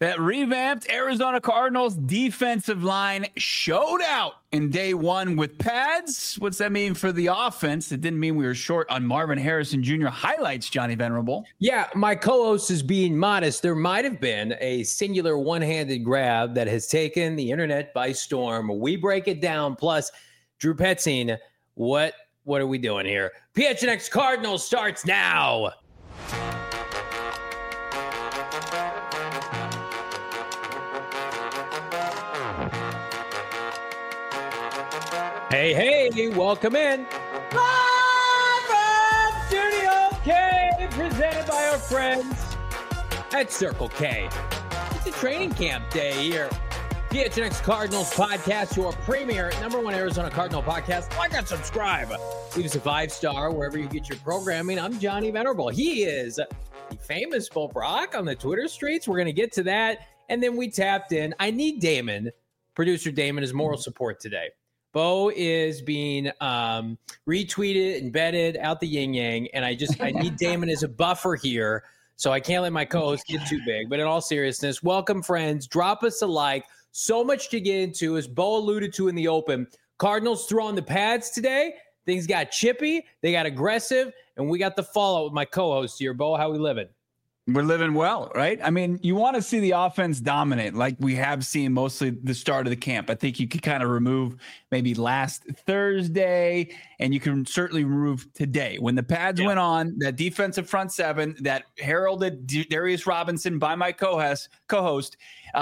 That revamped Arizona Cardinals defensive line showed out in day one with pads. What's that mean for the offense? It didn't mean we were short on Marvin Harrison Jr. highlights, Johnny Venerable. Yeah, my co-host is being modest. There might have been a singular one-handed grab that has taken the internet by storm. We break it down. Plus, Drew Petzing, what are we doing here? PHNX Cardinals starts now. Hey, welcome in. Live from Studio K, presented by our friends at Circle K. It's a training camp day here. PHNX Cardinals podcast, your premier #1 Arizona Cardinal podcast. Like and subscribe. Leave us a 5-star wherever you get your programming. I'm Johnny Venerable. He is the famous Bo Brock on the Twitter streets. We're going to get to that. And then we tapped in. I need Damon, producer Damon, as moral support today. Bo is being retweeted, embedded out the yin yang, and I need Damon as a buffer here, so I can't let my co-host get too big. But in all seriousness, welcome, friends. Drop us a like. So much to get into, as Bo alluded to in the open. Cardinals threw on the pads today. Things got chippy. They got aggressive, and we got the fallout with my co-host here. Bo, how we living? We're living well, right? I mean, you want to see the offense dominate like we have seen mostly the start of the camp. I think you could kind of remove maybe last Thursday, and you can certainly remove today. When the pads went on, that defensive front seven that heralded Darius Robinson by my co-host,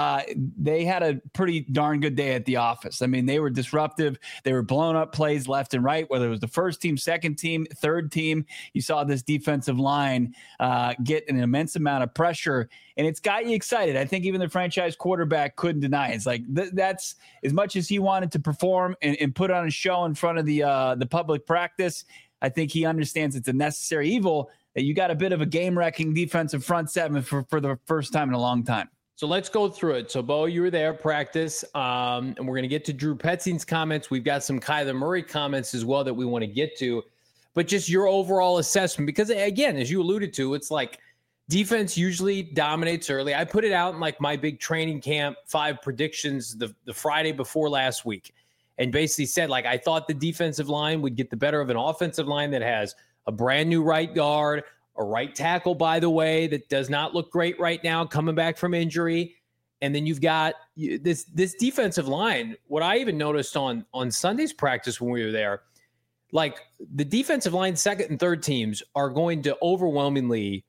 they had a pretty darn good day at the office. I mean, they were disruptive. They were blowing up plays left and right, whether it was the first team, second team, third team. You saw this defensive line get an immense amount of pressure, and it's got you excited. I think even the franchise quarterback couldn't deny it. It's like that's as much as he wanted to perform and put on a show in front of the public practice. I think he understands it's a necessary evil that you got a bit of a game-wrecking defensive front seven for the first time in a long time. So let's go through it. So, Bo, you were there, practice, and we're going to get to Drew Petzing's comments. We've got some Kyler Murray comments as well that we want to get to. But just your overall assessment, because, again, as you alluded to, it's like defense usually dominates early. I put it out in like my big training camp 5 predictions the Friday before last week, and basically said, like, I thought the defensive line would get the better of an offensive line that has a brand new right guard, a right tackle, by the way, that does not look great right now, coming back from injury. And then you've got this defensive line. What I even noticed on Sunday's practice when we were there, like the defensive line, second and third teams are going to overwhelmingly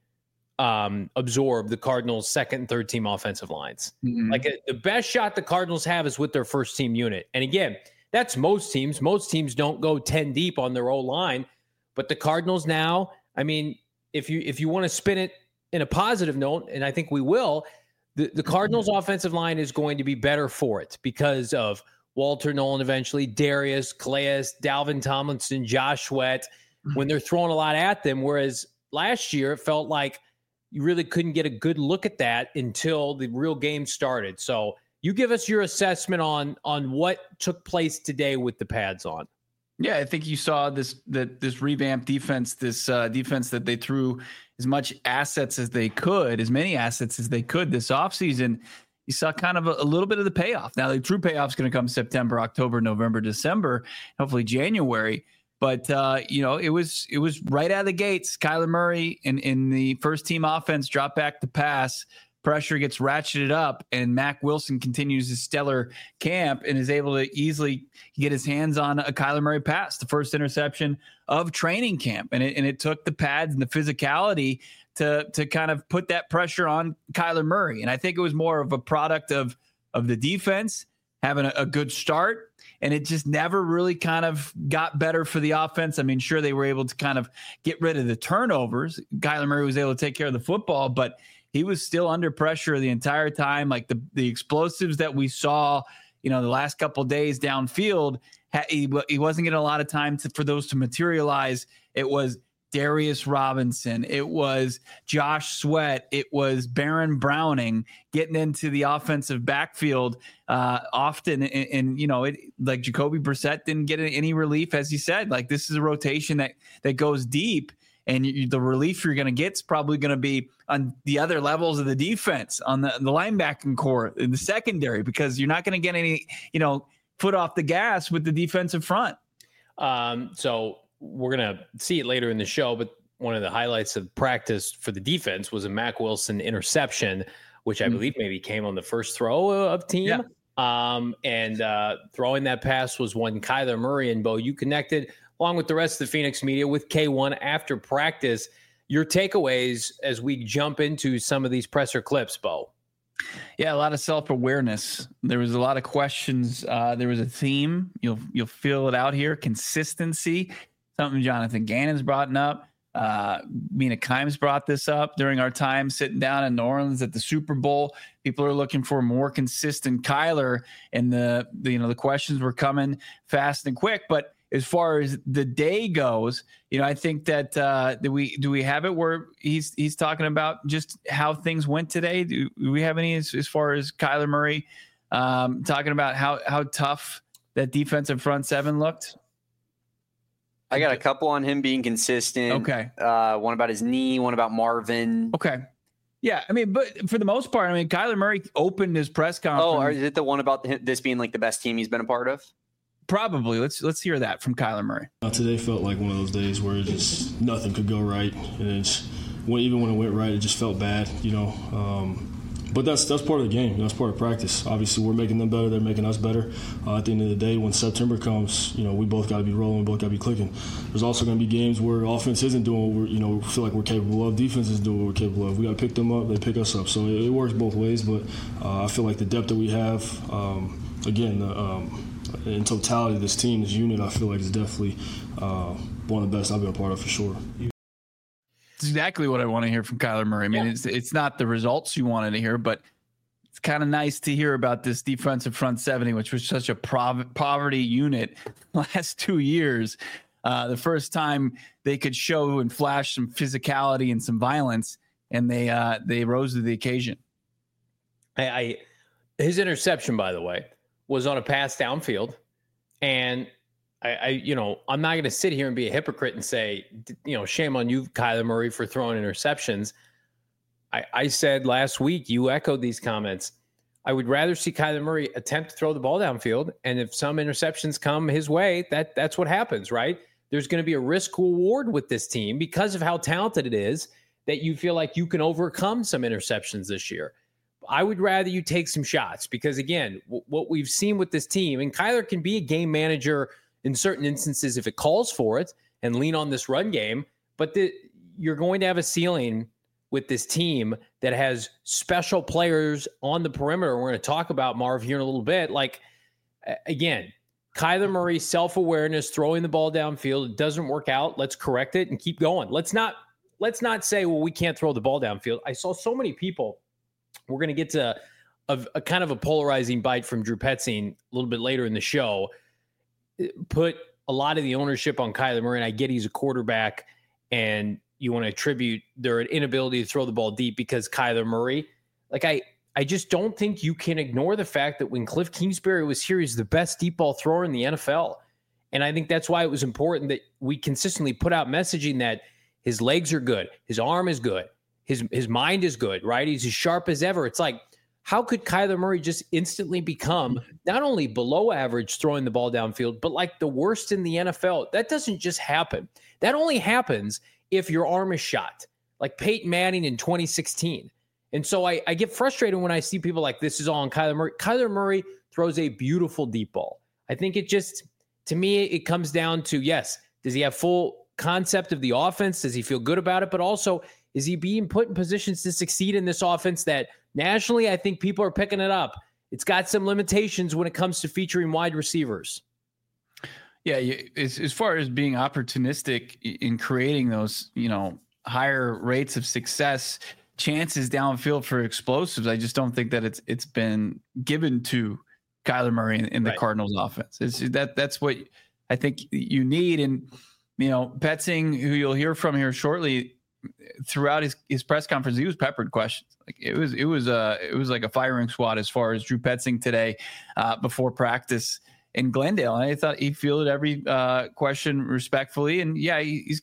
absorb the Cardinals' second and third team offensive lines. Mm-hmm. Like the best shot the Cardinals have is with their first team unit. And again, that's most teams. Most teams don't go 10 deep on their O-line, but the Cardinals now, I mean, if you want to spin it in a positive note, and I think we will, the Cardinals' offensive line is going to be better for it because of Walter Nolan eventually, Darius, Calais, Dalvin Tomlinson, Josh Sweat, when they're throwing a lot at them, whereas last year it felt like you really couldn't get a good look at that until the real game started. So you give us your assessment on what took place today with the pads on. Yeah, I think you saw this revamped defense, this defense that they threw as much assets as they could, as many assets as they could this offseason. You saw kind of a little bit of the payoff. Now, the true payoff is going to come September, October, November, December, hopefully January. But, it was right out of the gates. Kyler Murray in the first team offense dropped back to pass. Pressure gets ratcheted up, and Mack Wilson continues his stellar camp and is able to easily get his hands on a Kyler Murray pass, the first interception of training camp. And it took the pads and the physicality to kind of put that pressure on Kyler Murray. And I think it was more of a product of the defense having a good start, and it just never really kind of got better for the offense. I mean, sure, they were able to kind of get rid of the turnovers. Kyler Murray was able to take care of the football, but he was still under pressure the entire time. Like the explosives that we saw, the last couple of days downfield, he wasn't getting a lot of time for those to materialize. It was Darius Robinson. It was Josh Sweat. It was Baron Browning getting into the offensive backfield often. And like Jacoby Brissett didn't get any relief, as he said. Like, this is a rotation that goes deep. And the relief you're going to get is probably going to be on the other levels of the defense, on the linebacking core, in the secondary, because you're not going to get any, foot off the gas with the defensive front. So we're going to see it later in the show, but one of the highlights of practice for the defense was a Mack Wilson interception, which I believe maybe came on the first throw of team. Yeah. And throwing that pass was one Kyler Murray. And Bo, you connected along with the rest of the Phoenix media with K1 after practice. Your takeaways as we jump into some of these presser clips, Bo. Yeah, a lot of self-awareness. There was a lot of questions. There was a theme. You'll feel it out here. Consistency, something Jonathan Gannon's brought up. Mina Kimes brought this up during our time sitting down in New Orleans at the Super Bowl. People are looking for more consistent Kyler, and the questions were coming fast and quick. But as far as the day goes, I think that do we have it where he's talking about just how things went today? Do we have any as far as Kyler Murray talking about how tough that defensive front seven looked? I got a couple on him being consistent. Okay. One about his knee, one about Marvin. Okay. Yeah, but for the most part, Kyler Murray opened his press conference. Oh, is it the one about this being like the best team he's been a part of? Probably. Let's hear that from Kyler Murray. Today felt like one of those days where it just nothing could go right, and even when it went right, it just felt bad, But that's part of the game. That's part of practice. Obviously, we're making them better. They're making us better. At the end of the day, when September comes, we both got to be rolling. We both got to be clicking. There's also going to be games where offense isn't doing what we feel like we're capable of. Defense is doing what we're capable of. We got to pick them up. They pick us up. So it works both ways. But I feel like the depth that we have, in totality, this team, this unit, I feel like is definitely one of the best I've been a part of for sure. It's exactly what I want to hear from Kyler Murray. It's not the results you wanted to hear, but it's kind of nice to hear about this defensive front 70, which was such a poverty unit last 2 years. The first time they could show and flash some physicality and some violence, and they rose to the occasion. His interception, by the way, was on a pass downfield, and I'm not going to sit here and be a hypocrite and say, shame on you, Kyler Murray, for throwing interceptions. I said last week, you echoed these comments. I would rather see Kyler Murray attempt to throw the ball downfield, and if some interceptions come his way, that's what happens, right? There's going to be a risk reward with this team because of how talented it is that you feel like you can overcome some interceptions this year. I would rather you take some shots because, again, what we've seen with this team, and Kyler can be a game manager in certain instances if it calls for it and lean on this run game, but you're going to have a ceiling with this team that has special players on the perimeter. We're going to talk about Marv here in a little bit. Like, again, Kyler Murray, self-awareness, throwing the ball downfield. It doesn't work out. Let's correct it and keep going. Let's not say, well, we can't throw the ball downfield. I saw so many people. We're going to get to a kind of a polarizing bite from Drew Petzing a little bit later in the show. Put a lot of the ownership on Kyler Murray, and I get he's a quarterback, and you want to attribute their inability to throw the ball deep because Kyler Murray. Like, I just don't think you can ignore the fact that when Cliff Kingsbury was here, he's the best deep ball thrower in the NFL. And I think that's why it was important that we consistently put out messaging that his legs are good, his arm is good, his mind is good, right? He's as sharp as ever. It's like, how could Kyler Murray just instantly become not only below average throwing the ball downfield, but like the worst in the NFL? That doesn't just happen. That only happens if your arm is shot, like Peyton Manning in 2016. And so I get frustrated when I see people like, this is all on Kyler Murray. Kyler Murray throws a beautiful deep ball. I think it just, to me, it comes down to, yes, does he have full concept of the offense? Does he feel good about it? But also, is he being put in positions to succeed in this offense that nationally, I think people are picking it up? It's got some limitations when it comes to featuring wide receivers. Yeah, as far as being opportunistic in creating those, higher rates of success, chances downfield for explosives, I just don't think that it's been given to Kyler Murray in the Cardinals offense. That's what I think you need. And, Petzing, who you'll hear from here shortly, throughout his press conference, he was peppered questions. Like it was like a firing squad as far as Drew Petzing today before practice in Glendale. And I thought he fielded every question respectfully. And yeah, he's got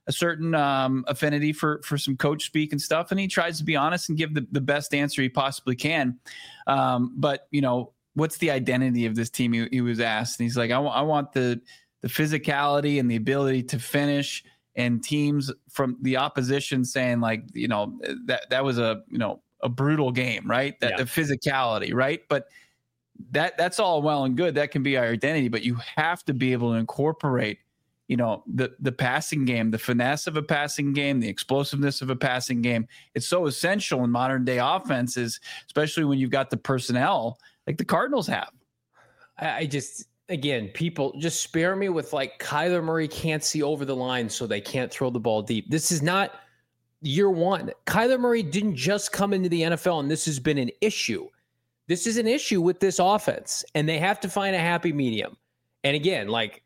a certain affinity for some coach speak and stuff, and he tries to be honest and give the best answer he possibly can. But what's the identity of this team? He was asked, and he's like, I want the physicality and the ability to finish, and teams from the opposition saying like, that was a brutal game, right? The physicality, right? But that's all well and good. That can be our identity, but you have to be able to incorporate, the passing game, the finesse of a passing game, the explosiveness of a passing game. It's so essential in modern day offenses, especially when you've got the personnel like the Cardinals have. Again, people just spare me with like Kyler Murray can't see over the line, so they can't throw the ball deep. This is not year one. Kyler Murray didn't just come into the NFL, and this has been an issue. This is an issue with this offense, and they have to find a happy medium. And again, like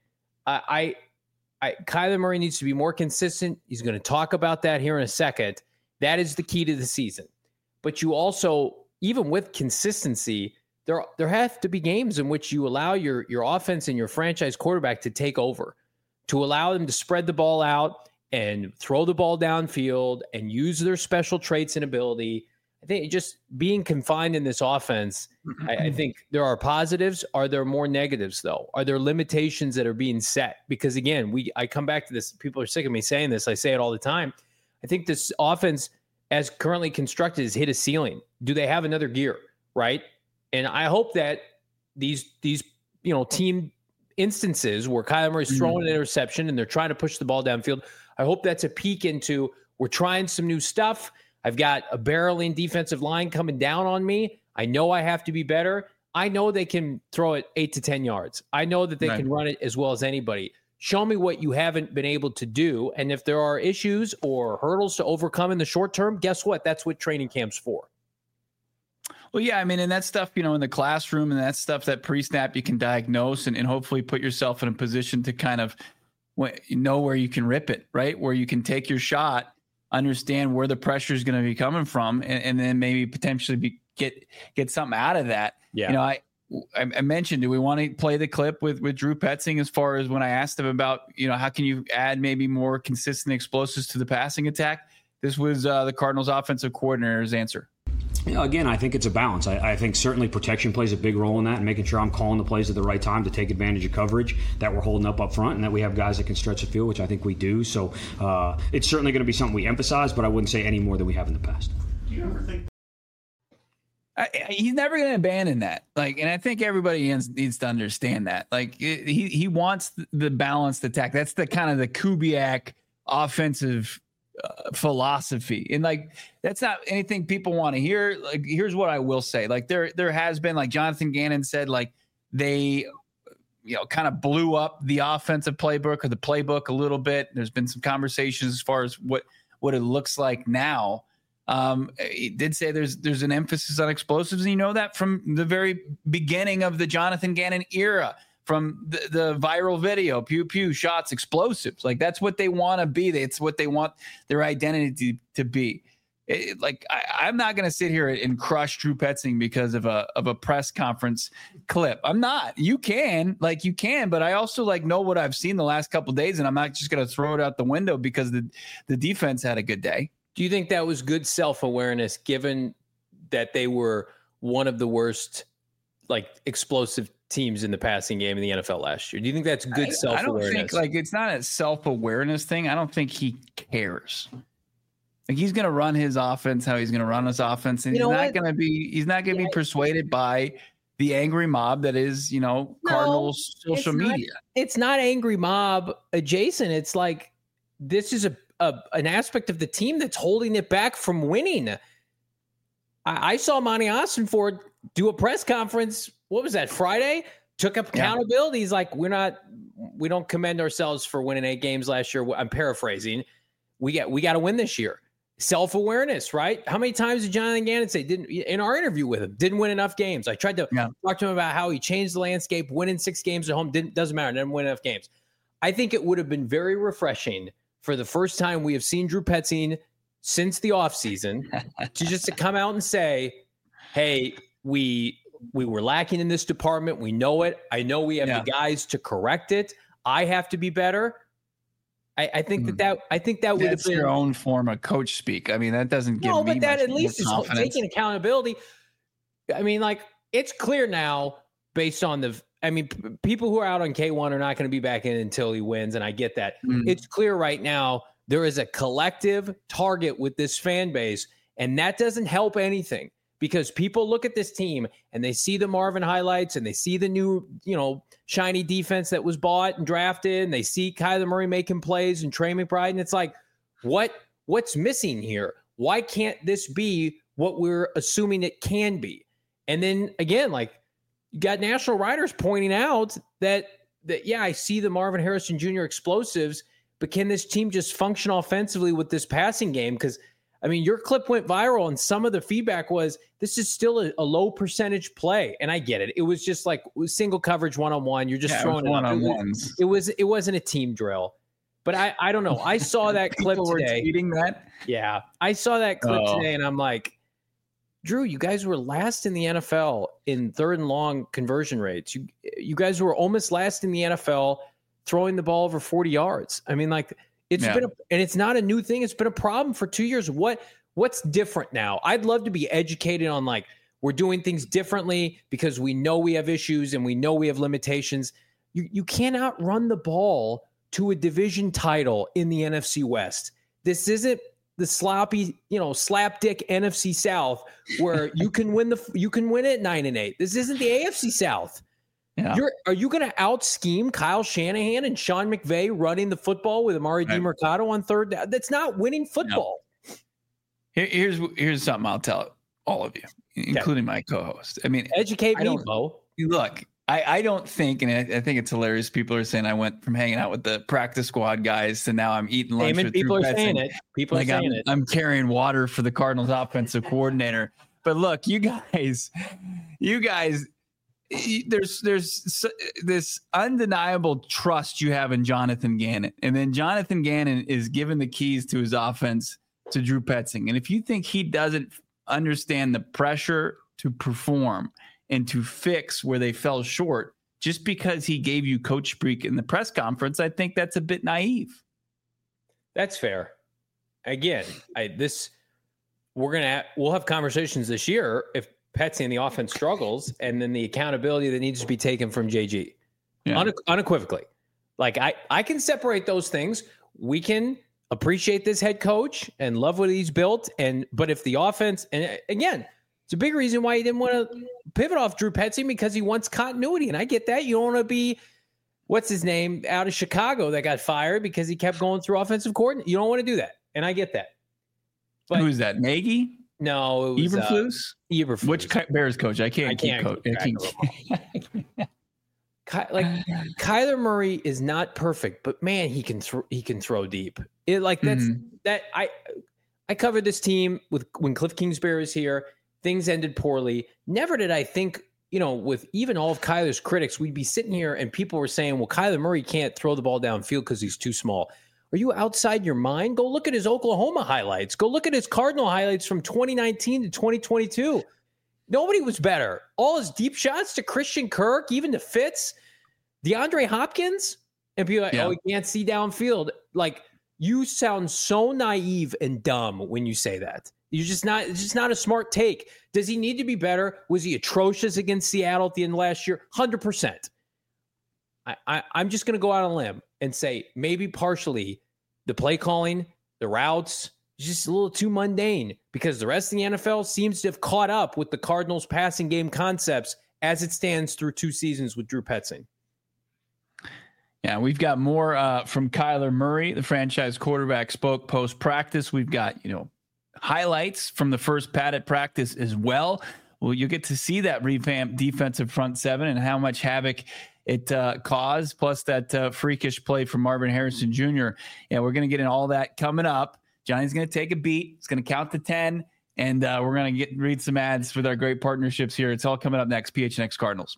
Kyler Murray needs to be more consistent. He's going to talk about that here in a second. That is the key to the season. But you also, even with consistency, there have to be games in which you allow your offense and your franchise quarterback to take over, to allow them to spread the ball out and throw the ball downfield and use their special traits and ability. I think just being confined in this offense, I think there are positives. Are there more negatives, though? Are there limitations that are being set? Because, again, I come back to this. People are sick of me saying this. I say it all the time. I think this offense, as currently constructed, has hit a ceiling. Do they have another gear, right? And I hope that these team instances where Kyler Murray's throwing an interception and they're trying to push the ball downfield, I hope that's a peek into we're trying some new stuff. I've got a barreling defensive line coming down on me. I know I have to be better. I know they can throw it 8 to 10 yards. I know that they can run it as well as anybody. Show me what you haven't been able to do. And if there are issues or hurdles to overcome in the short term, guess what? That's what training camp's for. Well, yeah, I mean, and that stuff, in the classroom, and that stuff that pre-snap you can diagnose and hopefully put yourself in a position to kind of know where you can rip it, right? Where you can take your shot, understand where the pressure is going to be coming from, and then maybe potentially get something out of that. Yeah. I mentioned, do we want to play the clip with Drew Petzing as far as when I asked him about, how can you add maybe more consistent explosives to the passing attack? This was the Cardinals offensive coordinator's answer. Again, I think it's a balance. I think certainly protection plays a big role in that, and making sure I'm calling the plays at the right time to take advantage of coverage, that we're holding up front, and that we have guys that can stretch the field, which I think we do. So it's certainly going to be something we emphasize, but I wouldn't say any more than we have in the past. Do you ever think he's never going to abandon that? And I think everybody needs to understand that. He wants the balanced attack. That's the kind of the Kubiak offensive philosophy, and that's not anything people want to hear. Here's what I will say: there has been, Jonathan Gannon said, they kind of blew up the offensive playbook or the playbook a little bit. There's been some conversations as far as what it looks like now. He did say there's an emphasis on explosives, and that from the very beginning of the Jonathan Gannon era. From the viral video, pew, pew, shots, explosives. That's what they want to be. It's what they want their identity to be. I'm not going to sit here and crush Drew Petzing because of a press conference clip. I'm not. You can, but I also know what I've seen the last couple of days, and I'm not just going to throw it out the window because the defense had a good day. Do you think that was good self-awareness, given that they were one of the worst explosive teams in the passing game in the NFL last year? Do you think that's good self-awareness? I don't think it's not a self-awareness thing. I don't think he cares. He's going to run his offense how he's going to run his offense, and he's not going to be persuaded by the angry mob that is, Cardinals social media. It's not angry mob adjacent. It's this is an aspect of the team that's holding it back from winning. I saw Monty Ossenford do a press conference. What was that, Friday? Took up accountability. He's we don't commend ourselves for winning 8 games last year. I'm paraphrasing. We got to win this year. Self-awareness, right? How many times did Jonathan Gannon say, in our interview with him, didn't win enough games? I tried to talk to him about how he changed the landscape, winning 6 games at home, doesn't matter, didn't win enough games. I think it would have been very refreshing for the first time we have seen Drew Petzing since the offseason to come out and say, hey, we were lacking in this department. We know it. I know we have the guys to correct it. I have to be better. I think that would have been your own form of coach speak. I mean, that doesn't give me but that at least is confidence. taking accountability. I mean, like, it's clear now based on people who are out on K1 are not going to be back in until he wins, and I get that. It's clear right now there is a collective target with this fan base, and that doesn't help anything because people look at this team and they see the Marvin highlights and they see the new, shiny defense that was bought and drafted, and they see Kyler Murray making plays and Trey McBride, and it's like, what's missing here? Why can't this be what we're assuming it can be? And then again, like, you got national writers pointing out that I see the Marvin Harrison Jr. explosives, but can this team just function offensively with this passing game? Because, I mean, your clip went viral, and some of the feedback was this is still a low percentage play. And I get it. It was just like single coverage one-on-one. You're just throwing it one-on-ones. It wasn't a team drill. But I don't know. I saw that clip today. Tweeting that? Yeah. I saw that clip today, and I'm like, Drew, you guys were last in the NFL in third and long conversion rates. You guys were almost last in the NFL throwing the ball over 40 yards. I mean, like, it's been and it's not a new thing. It's been a problem for 2 years. What's different now? I'd love to be educated on, like, we're doing things differently because we know we have issues and we know we have limitations. You cannot run the ball to a division title in the NFC West. This isn't the sloppy, slapdick NFC South where you can win it 9-8. This isn't the AFC South. Yeah. Are you going to out scheme Kyle Shanahan and Sean McVay running the football with Amari DiMercato on third down? That's not winning football. No. Here's something I'll tell all of you, including my co-host. I mean, educate me, Bo. Look, I don't think, and I think it's hilarious. People are saying I went from hanging out with the practice squad guys to now I'm eating lunch with people are saying it. People are saying it. I'm carrying water for the Cardinals offensive coordinator. But look, you guys, there's this undeniable trust you have in Jonathan Gannon, and then Jonathan Gannon is giving the keys to his offense to Drew Petzing. And if you think he doesn't understand the pressure to perform and to fix where they fell short just because he gave you coach speak in the press conference, I think that's a bit naive. That's fair. Again, we'll have conversations this year if Petsy and the offense struggles, and then the accountability that needs to be taken from JG unequivocally. Like, I can separate those things. We can appreciate this head coach and love what he's built. But if the offense, and again, it's a big reason why he didn't want to pivot off Drew Petzing, because he wants continuity. And I get that. You don't want to be, what's his name, out of Chicago that got fired because he kept going through offensive coordinator. You don't want to do that. And I get that. But who's that? Nagy? No, it was Eberflus? Eberflus. Which Bears coach? I can't keep coach. Like, Kyler Murray is not perfect, but man, he can throw deep. I covered this team when Cliff Kingsbury was here. Things ended poorly. Never did I think, with even all of Kyler's critics, we'd be sitting here and people were saying, well, Kyler Murray can't throw the ball downfield because he's too small. Are you outside your mind? Go look at his Oklahoma highlights. Go look at his Cardinal highlights from 2019 to 2022. Nobody was better. All his deep shots to Christian Kirk, even to Fitz, DeAndre Hopkins, and people are like, he can't see downfield. Like, you sound so naive and dumb when you say that. It's just not a smart take. Does he need to be better? Was he atrocious against Seattle at the end of last year? 100%. I'm just going to go out on a limb and say maybe partially the play calling, the routes, is just a little too mundane because the rest of the NFL seems to have caught up with the Cardinals' passing game concepts as it stands through 2 seasons with Drew Petzing. Yeah, we've got more from Kyler Murray. The franchise quarterback spoke post-practice. We've got, highlights from the first padded practice as well. Well, you'll get to see that revamped defensive front seven and how much havoc it caused, plus that freakish play from Marvin Harrison Jr. Yeah, we're going to get in all that coming up. Johnny's going to take a beat. It's going to count to 10, and we're going to read some ads with our great partnerships here. It's all coming up next. PHNX Cardinals.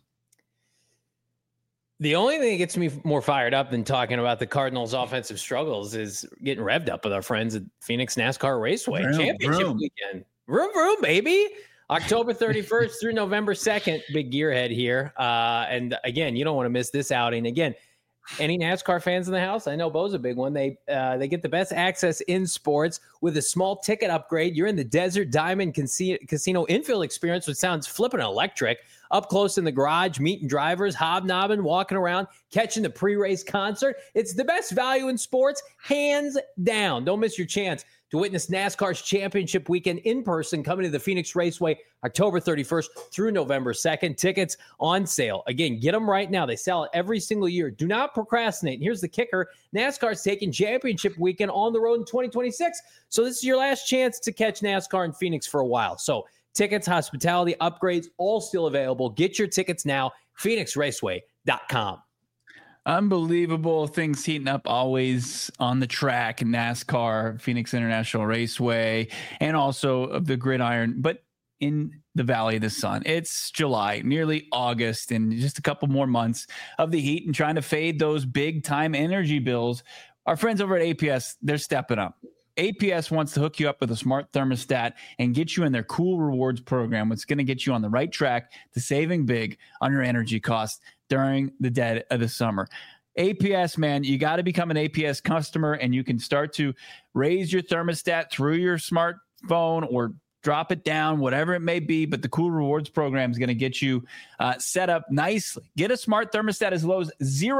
The only thing that gets me more fired up than talking about the Cardinals' offensive struggles is getting revved up with our friends at Phoenix NASCAR Raceway Championship weekend. Vroom, baby. October 31st through November 2nd, big gearhead here. And again, you don't want to miss this outing. Again, Any NASCAR fans in the house? I know Bo's a big one. They get the best access in sports with a small ticket upgrade. You're in the Desert Diamond Casino infield experience, which sounds flippin' electric. Up close in the garage, meeting drivers, hobnobbing, walking around, catching the pre-race concert. It's the best value in sports, hands down. Don't miss your chance to witness NASCAR's championship weekend in person, coming to the Phoenix Raceway October 31st through November 2nd. Tickets on sale. Again, get them right now. They sell it every single year. Do not procrastinate. And here's the kicker. NASCAR's taking championship weekend on the road in 2026. So this is your last chance to catch NASCAR in Phoenix for a while. So tickets, hospitality, upgrades, all still available. Get your tickets now, phoenixraceway.com. Unbelievable things heating up always on the track in NASCAR, Phoenix International Raceway, and also of the gridiron, but in the Valley of the Sun. It's July, nearly August, and just a couple more months of the heat and trying to fade those big time energy bills. Our friends over at APS, they're stepping up. APS wants to hook you up with a smart thermostat and get you in their Cool Rewards program, which is going to get you on the right track to saving big on your energy costs during the dead of the summer. APS, man, you got to become an APS customer, and you can start to raise your thermostat through your smartphone or drop it down, whatever it may be. But the Cool Rewards program is going to get you set up nicely. Get a smart thermostat as low as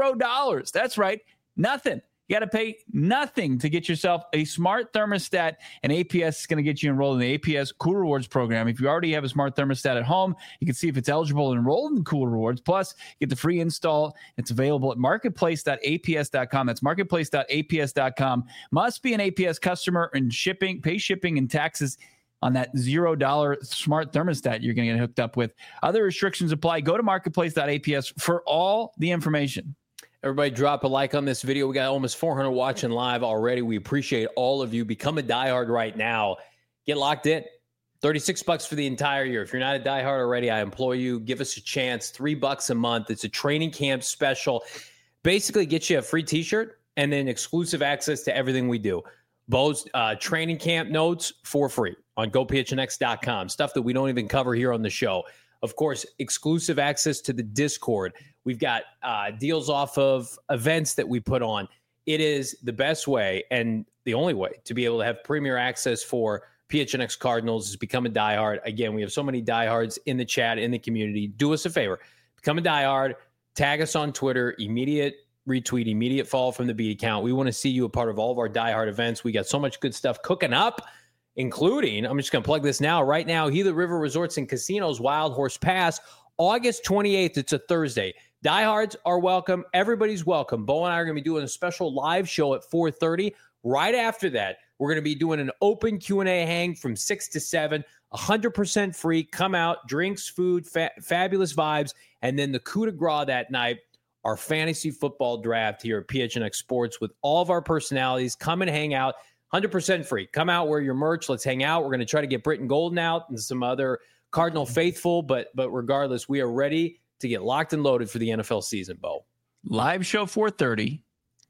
$0. That's right, nothing. You got to pay nothing to get yourself a smart thermostat, and APS is going to get you enrolled in the APS Cool Rewards program. If you already have a smart thermostat at home, you can see if it's eligible and enrolled in Cool Rewards. Plus, get the free install. It's available at marketplace.aps.com. That's marketplace.aps.com. Must be an APS customer and pay shipping and taxes on that $0 smart thermostat you're going to get hooked up with. Other restrictions apply. Go to marketplace.aps for all the information. Everybody drop a like on this video. We got almost 400 watching live already. We appreciate all of you. Become a diehard right now. Get locked in. $36 for the entire year. If you're not a diehard already, I implore you, give us a chance. $3 a month. It's a training camp special. Basically, get you a free t-shirt and then exclusive access to everything we do. Bo's training camp notes for free on gophnx.com. Stuff that we don't even cover here on the show. Of course, exclusive access to the Discord. We've got deals off of events that we put on. It is the best way and the only way to be able to have premier access for PHNX Cardinals is become a diehard. Again, we have so many diehards in the chat, in the community. Do us a favor. Become a diehard. Tag us on Twitter. Immediate retweet, immediate follow from the Beat account. We want to see you a part of all of our diehard events. We got so much good stuff cooking up, including, I'm just going to plug this now, right now, Gila River Resorts and Casinos Wild Horse Pass, August 28th. It's a Thursday. Diehards are welcome. Everybody's welcome. Bo and I are going to be doing a special live show at 4:30. Right after that, we're going to be doing an open Q&A hang from 6 to 7, 100% free. Come out, drinks, food, fabulous vibes, and then the coup de grace that night, our fantasy football draft here at PHNX Sports with all of our personalities. Come and hang out. 100% free. Come out, wear your merch. Let's hang out. We're going to try to get Britton Golden out and some other Cardinal faithful, but regardless, we are ready to get locked and loaded for the NFL season, Bo. Live show 4:30.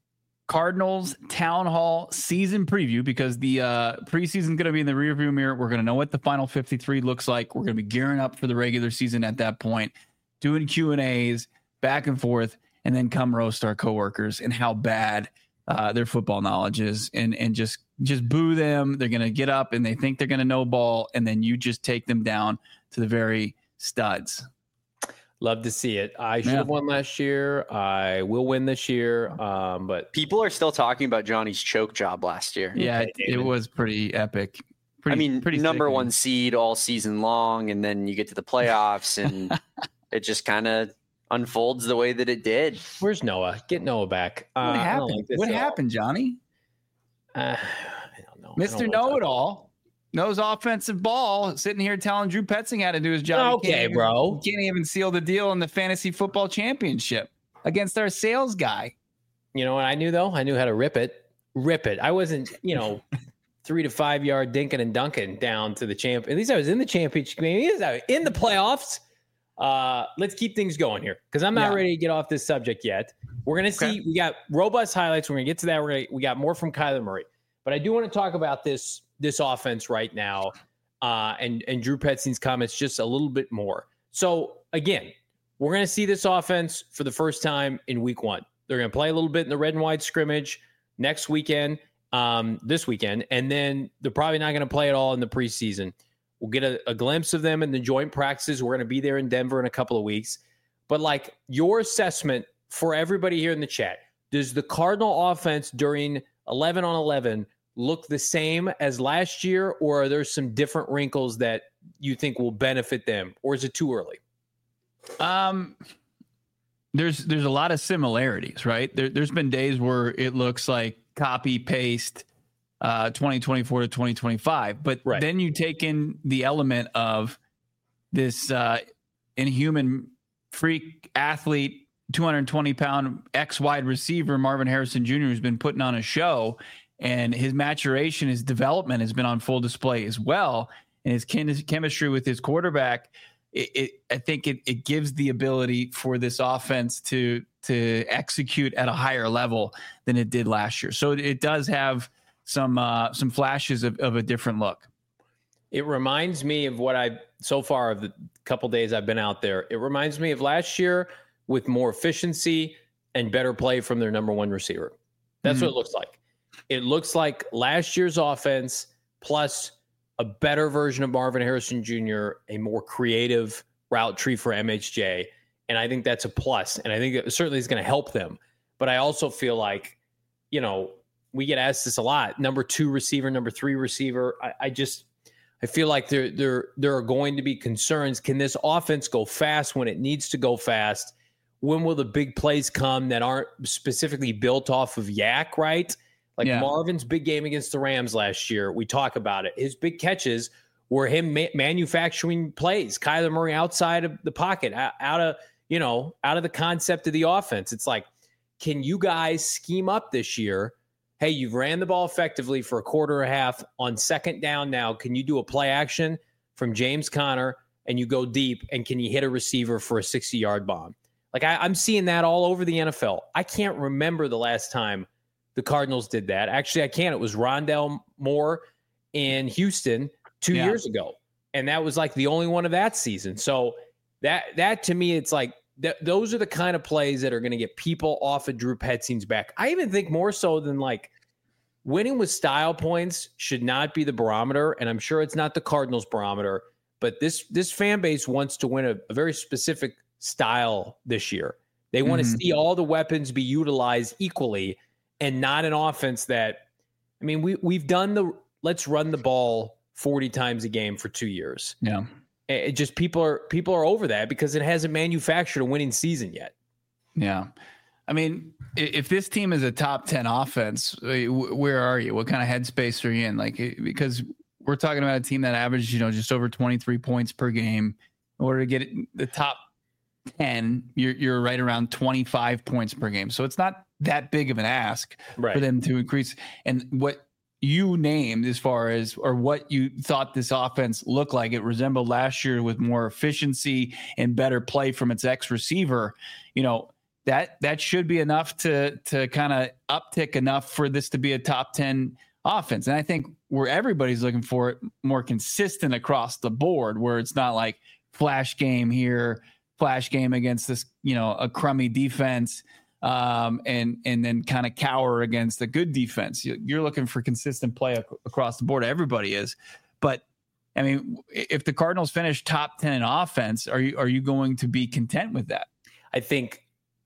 Cardinals Town Hall season preview, because the preseason is going to be in the rearview mirror. We're going to know what the final 53 looks like. We're going to be gearing up for the regular season at that point, doing Q&As back and forth, and then come roast our coworkers and how bad their football knowledge is, and just boo them. They're going to get up and they think they're going to know ball, and then you just take them down to the very studs. Love to see it. I should have won last year. I will win this year. But people are still talking about Johnny's choke job last year. Yeah, it was pretty epic. Pretty number one seed all season long, and then you get to the playoffs, and it just kind of unfolds the way that it did. Where's Noah? Get Noah back. What happened? What happened, Johnny? I don't know. Mr. Know-it-all knows offensive ball, sitting here telling Drew Petzing how to do his job. Okay, bro. He can't even seal the deal in the fantasy football championship against our sales guy. You know what I knew, though? I knew how to rip it. I wasn't, 3 to 5 yard dinking and dunking down to the champ. At least I was in the championship game. In the playoffs. Let's keep things going here, because I'm not ready to get off this subject yet. We're going to see. We got robust highlights. We're going to get to that. We got more from Kyler Murray. But I do want to talk about this offense right now, and Drew Petzing's comments just a little bit more. So, again, we're going to see this offense for the first time in week 1. They're going to play a little bit in the red and white scrimmage next weekend, this weekend, and then they're probably not going to play at all in the preseason. We'll get a glimpse of them in the joint practices. We're going to be there in Denver in a couple of weeks. But like your assessment for everybody here in the chat, does the Cardinal offense during 11 on 11 look the same as last year, or are there some different wrinkles that you think will benefit them, or is it too early? There's a lot of similarities, right? There's been days where it looks like copy paste 2024 to 2025, but right. Then you take in the element of this inhuman freak athlete, 220-pound ex-wide receiver Marvin Harrison Jr., who's been putting on a show, and his maturation, his development has been on full display as well, and his chemistry with his quarterback. I think it gives the ability for this offense to execute at a higher level than it did last year. So it does have some flashes of a different look. It reminds me of what so far of the couple days I've been out there. It reminds me of last year with more efficiency and better play from their number one receiver. That's what it looks like. It looks like last year's offense plus a better version of Marvin Harrison Jr., a more creative route tree for MHJ. And I think that's a plus. And I think it certainly is going to help them. But I also feel like, we get asked this a lot. Number 2 receiver, number 3 receiver. I feel like there are going to be concerns. Can this offense go fast when it needs to go fast? When will the big plays come that aren't specifically built off of Yak, right? Like Marvin's big game against the Rams last year, we talk about it. His big catches were him manufacturing plays. Kyler Murray outside of the pocket, out of the concept of the offense. It's like, can you guys scheme up this year? Hey, you've ran the ball effectively for a quarter and a half on second down now. Can you do a play action from James Conner and you go deep, and can you hit a receiver for a 60-yard bomb? Like I'm seeing that all over the NFL. I can't remember the last time the Cardinals did that. Actually, I can't. It was Rondale Moore in Houston 2 years ago. And that was like the only one of that season. So that to me, it's like those are the kind of plays that are going to get people off of Drew Petzing's back. I even think more so than like winning with style points should not be the barometer. And I'm sure it's not the Cardinals barometer, but this fan base wants to win a very specific style this year. They want to see all the weapons be utilized equally, and not an offense that, we've done let's run the ball 40 times a game for 2 years. Yeah. It just people are over that because it hasn't manufactured a winning season yet. Yeah. If this team is a top 10 offense, where are you? What kind of headspace are you in? Because we're talking about a team that averages, just over 23 points per game. In order to get the top 10, you're right around 25 points per game. So it's not that big of an ask for them to increase. And what you named as far as, or what you thought this offense looked like, it resembled last year with more efficiency and better play from its receiver, that should be enough to kind of uptick enough for this to be a top 10 offense. And I think where everybody's looking for it, more consistent across the board, where it's not like flash game here, flash game against this, a crummy defense, and then kind of cower against a good defense. You're looking for consistent play across the board. Everybody is. But if the Cardinals finish top 10 in offense, are you going to be content with that? I think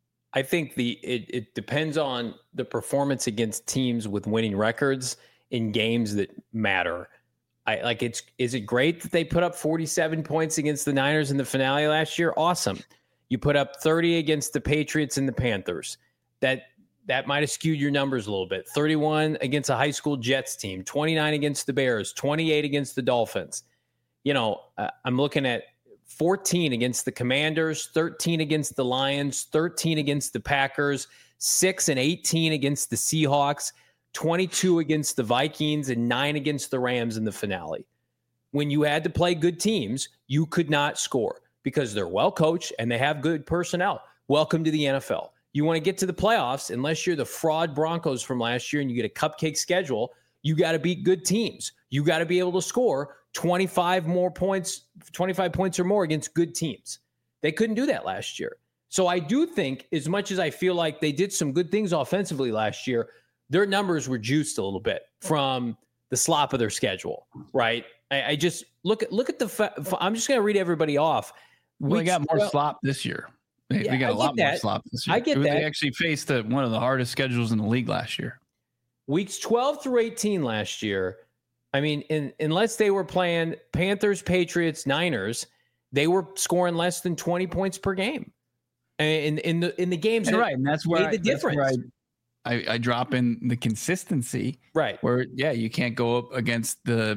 it depends on the performance against teams with winning records in games that matter. Is it great that they put up 47 points against the Niners in the finale last year? Awesome. You put up 30 against the Patriots and the Panthers. That might have skewed your numbers a little bit. 31 against a high school Jets team, 29 against the Bears, 28 against the Dolphins. I'm looking at 14 against the Commanders, 13 against the Lions, 13 against the Packers, 6 and 18 against the Seahawks, 22 against the Vikings, and 9 against the Rams in the finale. When you had to play good teams, you could not score because they're well coached and they have good personnel. Welcome to the NFL. You want to get to the playoffs, unless you're the fraud Broncos from last year and you get a cupcake schedule, you got to beat good teams. You got to be able to score 25 points or more against good teams. They couldn't do that last year. So I do think, as much as I feel like they did some good things offensively last year, their numbers were juiced a little bit from the slop of their schedule, right? I just look at the. I'm just going to read everybody off. We got more slop this year. We got a lot more slop this year. I get that. They actually faced one of the hardest schedules in the league last year. Weeks 12 through 18 last year. I mean, unless they were playing Panthers, Patriots, Niners, they were scoring less than 20 points per game. And in the games, right? And that's where the difference. I drop in the consistency, right? Where you can't go up against the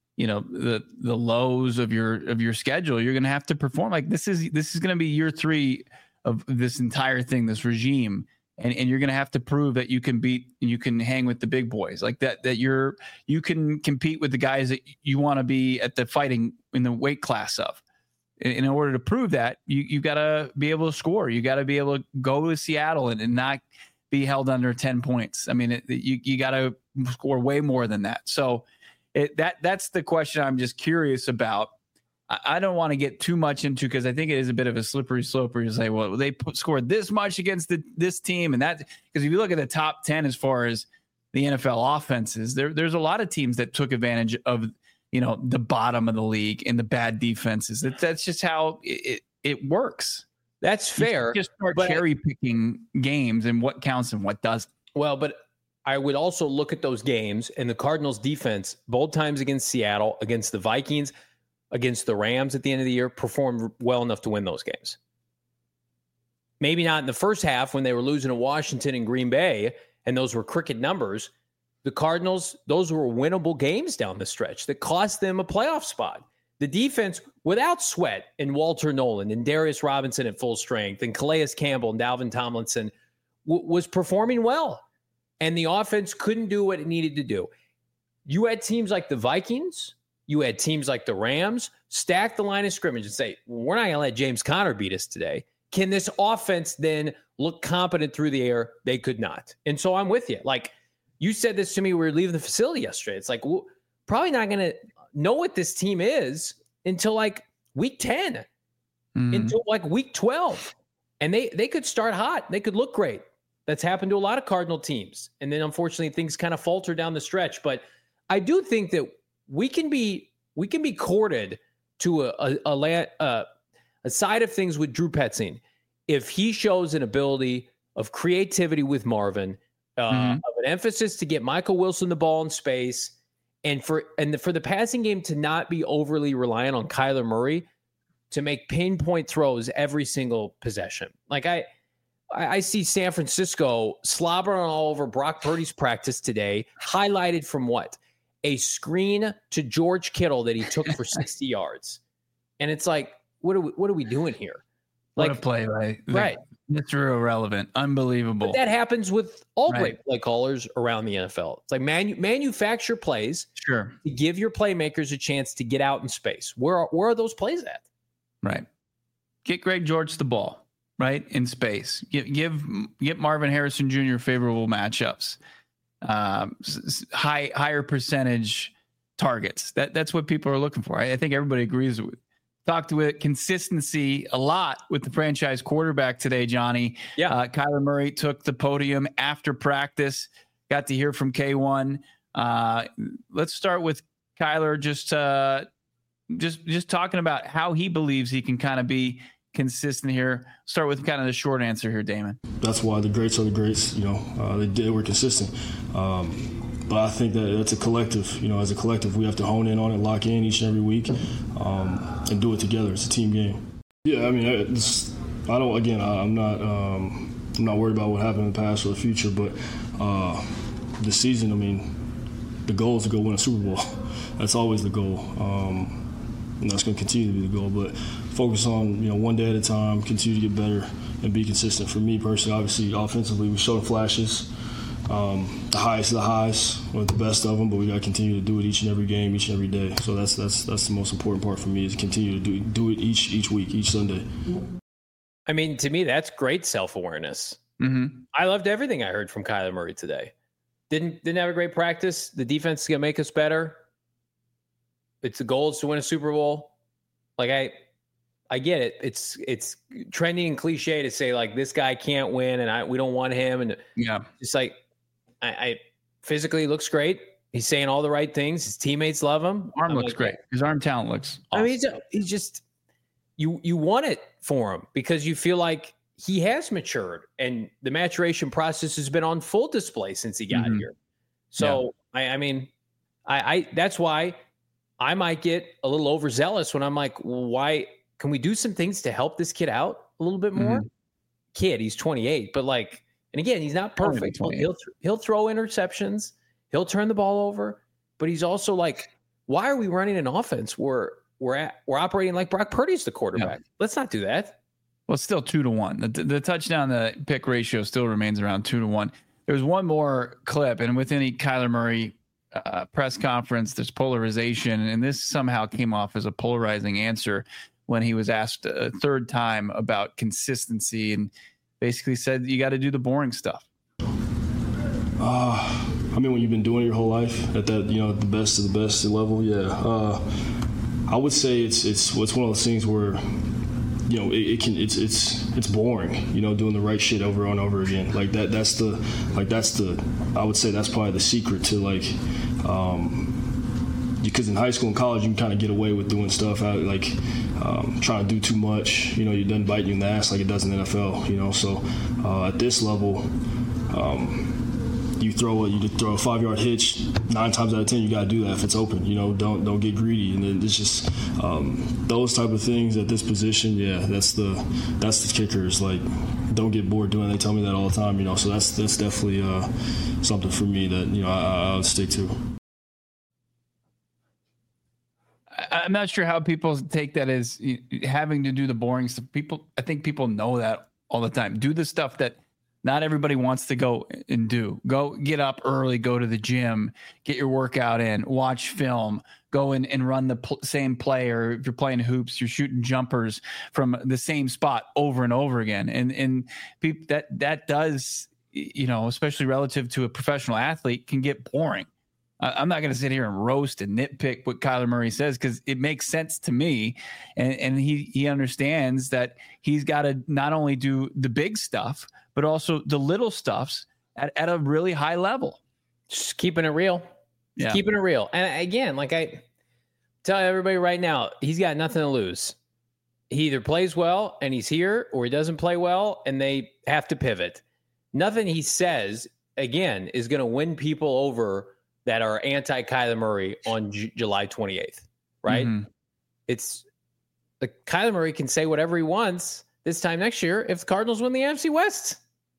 lows of your schedule. You're going to have to perform. Like this is going to be year 3 of this entire thing, this regime, and you're going to have to prove that you can hang with the big boys, like that you can compete with the guys that you want to be at the fighting in the weight class of. In order to prove that, you got to be able to score. You got to be able to go to Seattle and not be held under 10 points. I mean, you got to score way more than that. So that's the question I'm just curious about. I don't want to get too much into, because I think it is a bit of a slippery slope where you say, well, they scored this much against this team, and that, because if you look at the top 10 as far as the NFL offenses, there's a lot of teams that took advantage of the bottom of the league and the bad defenses. That's just how it works. That's fair. You just start cherry picking games and what counts and what doesn't. Well, but I would also look at those games, and the Cardinals defense, both times against Seattle, against the Vikings, against the Rams at the end of the year, performed well enough to win those games. Maybe not in the first half when they were losing to Washington and Green Bay, and those were cricket numbers. The Cardinals, those were winnable games down the stretch that cost them a playoff spot. The defense, without Sweat and Walter Nolan and Darius Robinson at full strength and Calais Campbell and Dalvin Tomlinson, was performing well. And the offense couldn't do what it needed to do. You had teams like the Vikings, you had teams like the Rams stack the line of scrimmage and say, we're not going to let James Conner beat us today. Can this offense then look competent through the air? They could not. And so I'm with you. Like, you said this to me, we were leaving the facility yesterday. It's like, we're probably not going to know what this team is until like week 10, until like week 12. And they could start hot. They could look great. That's happened to a lot of Cardinal teams. And then unfortunately things kind of falter down the stretch. But I do think that we can be courted to a side of things with Drew Petzing if he shows an ability of creativity with Marvin, of an emphasis to get Michael Wilson the ball in space, and for the passing game to not be overly reliant on Kyler Murray to make pinpoint throws every single possession. Like I see San Francisco slobbering all over Brock Purdy's practice today, highlighted from what? A screen to George Kittle that he took for 60 yards. And it's like, what are we doing here? Like, what a play, right? Right. Mr. Irrelevant. Unbelievable. But that happens with all great play callers around the NFL. It's like manufacture plays to give your playmakers a chance to get out in space. Where are those plays at? Right. Get Greg George the ball, right, in space. Get Marvin Harrison Jr. favorable matchups. Higher percentage targets. That's what people are looking for. I think everybody agrees with. Talked with consistency a lot with the franchise quarterback today, Johnny. Yeah. Kyler Murray took the podium after practice. Got to hear from K1. Let's start with Kyler. Just talking about how he believes he can kind of be consistent here. Start with kind of the short answer here, Damon. That's why the greats are the greats. They were consistent. But I think that that's a collective. As a collective, we have to hone in on it, lock in each and every week, and do it together. It's a team game. Yeah, I mean, I'm not worried about what happened in the past or the future, but this season, I mean, the goal is to go win a Super Bowl. That's always the goal. And that's going to continue to be the goal. But focus on, one day at a time, continue to get better, and be consistent. For me personally, obviously, offensively, we showed flashes. The highest of the highs, or the best of them, but we got to continue to do it each and every game, each and every day. So that's the most important part for me, is continue to do it each week, each Sunday. I mean, to me, that's great self-awareness. Mm-hmm. I loved everything I heard from Kyler Murray today. Didn't have a great practice. The defense is going to make us better. The goal is to win a Super Bowl. Like I get it. It's trendy and cliche to say like this guy can't win and we don't want him. And it's like I physically looks great. He's saying all the right things. His teammates love him. Arm looks great. His arm talent looks awesome. I mean, he's just you want it for him because you feel like he has matured and the maturation process has been on full display since he got here. So I mean, I that's why I might get a little overzealous when I'm like, why can we do some things to help this kid out a little bit more? Kid, he's 28, but like, and again, he's not perfect. He'll throw interceptions. He'll turn the ball over, but he's also like, why are we running an offense where we're operating like Brock Purdy's the quarterback? Yeah. Let's not do that. Well, it's still 2-1. The touchdown, the pick ratio still remains around 2-1. There's one more clip, and with any Kyler Murray press conference, there's polarization, and this somehow came off as a polarizing answer when he was asked a third time about consistency, and basically said you got to do the boring stuff. I mean, when you've been doing it your whole life at that, the best of the best level, I would say it's one of those things where, it's boring, doing the right shit over and over again. Like that's the I would say that's probably the secret to because in high school and college you can kind of get away with doing stuff out trying to do too much. It doesn't bite you in the ass like it does in the NFL. So at this level, you throw a 5-yard hitch 9 times out of 10. You got to do that if it's open. Don't get greedy. And then it's just those type of things at this position. Yeah, that's the kicker. Is like, don't get bored doing it. They tell me that all the time. So that's definitely something for me that I would stick to. I'm not sure how people take that as having to do the boring stuff. I think people know that all the time. Do the stuff that not everybody wants to go and do. Go get up early, go to the gym, get your workout in, watch film, go in and run the same play. Or if you're playing hoops, you're shooting jumpers from the same spot over and over again. And people, that does, especially relative to a professional athlete, can get boring. I'm not going to sit here and roast and nitpick what Kyler Murray says because it makes sense to me. And he understands that he's got to not only do the big stuff, but also the little stuffs at a really high level. Just keeping it real. Yeah. Keeping it real. And again, like I tell everybody right now, he's got nothing to lose. He either plays well and he's here, or he doesn't play well and they have to pivot. Nothing he says, again, is going to win people over that are anti-Kyler Murray on July 28th, right? Mm-hmm. It's like Kyler Murray can say whatever he wants this time next year if the Cardinals win the NFC West.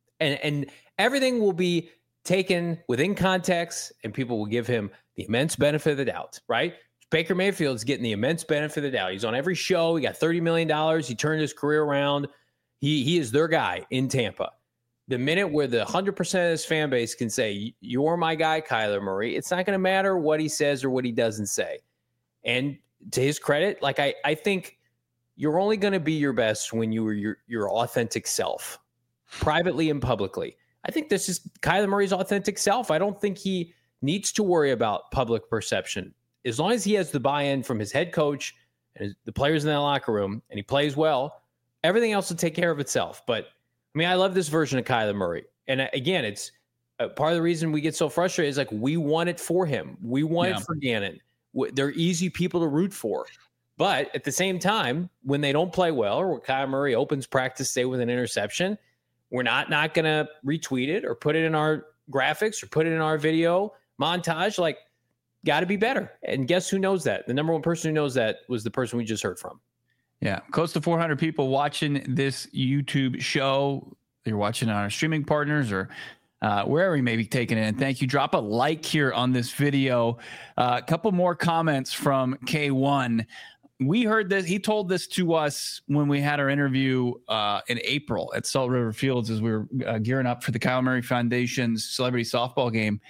And everything will be taken within context, and people will give him the immense benefit of the doubt, right? Baker Mayfield's getting the immense benefit of the doubt. He's on every show. He got $30 million. He turned his career around. He is their guy in Tampa. The minute where the 100% of this fan base can say, you're my guy, Kyler Murray, it's not going to matter what he says or what he doesn't say. And to his credit, like I think you're only going to be your best when you are your authentic self, privately and publicly. I think this is Kyler Murray's authentic self. I don't think he needs to worry about public perception. As long as he has the buy-in from his head coach and the players in that locker room, and he plays well, everything else will take care of itself. But I mean, I love this version of Kyler Murray. And again, it's part of the reason we get so frustrated is like, we want it for him. We want it for Gannon. They're easy people to root for. But at the same time, when they don't play well, or when Kyler Murray opens practice day with an interception, we're not going to retweet it or put it in our graphics or put it in our video montage. Like, got to be better. And guess who knows that? The number one person who knows that was the person we just heard from. Yeah, close to 400 people watching this YouTube show. You're watching on our streaming partners or wherever you may be taking it in. Thank you. Drop a like here on this video. A couple more comments from K1. We heard this. He told this to us when we had our interview in April at Salt River Fields as we were gearing up for the Kyle Murray Foundation's celebrity softball game.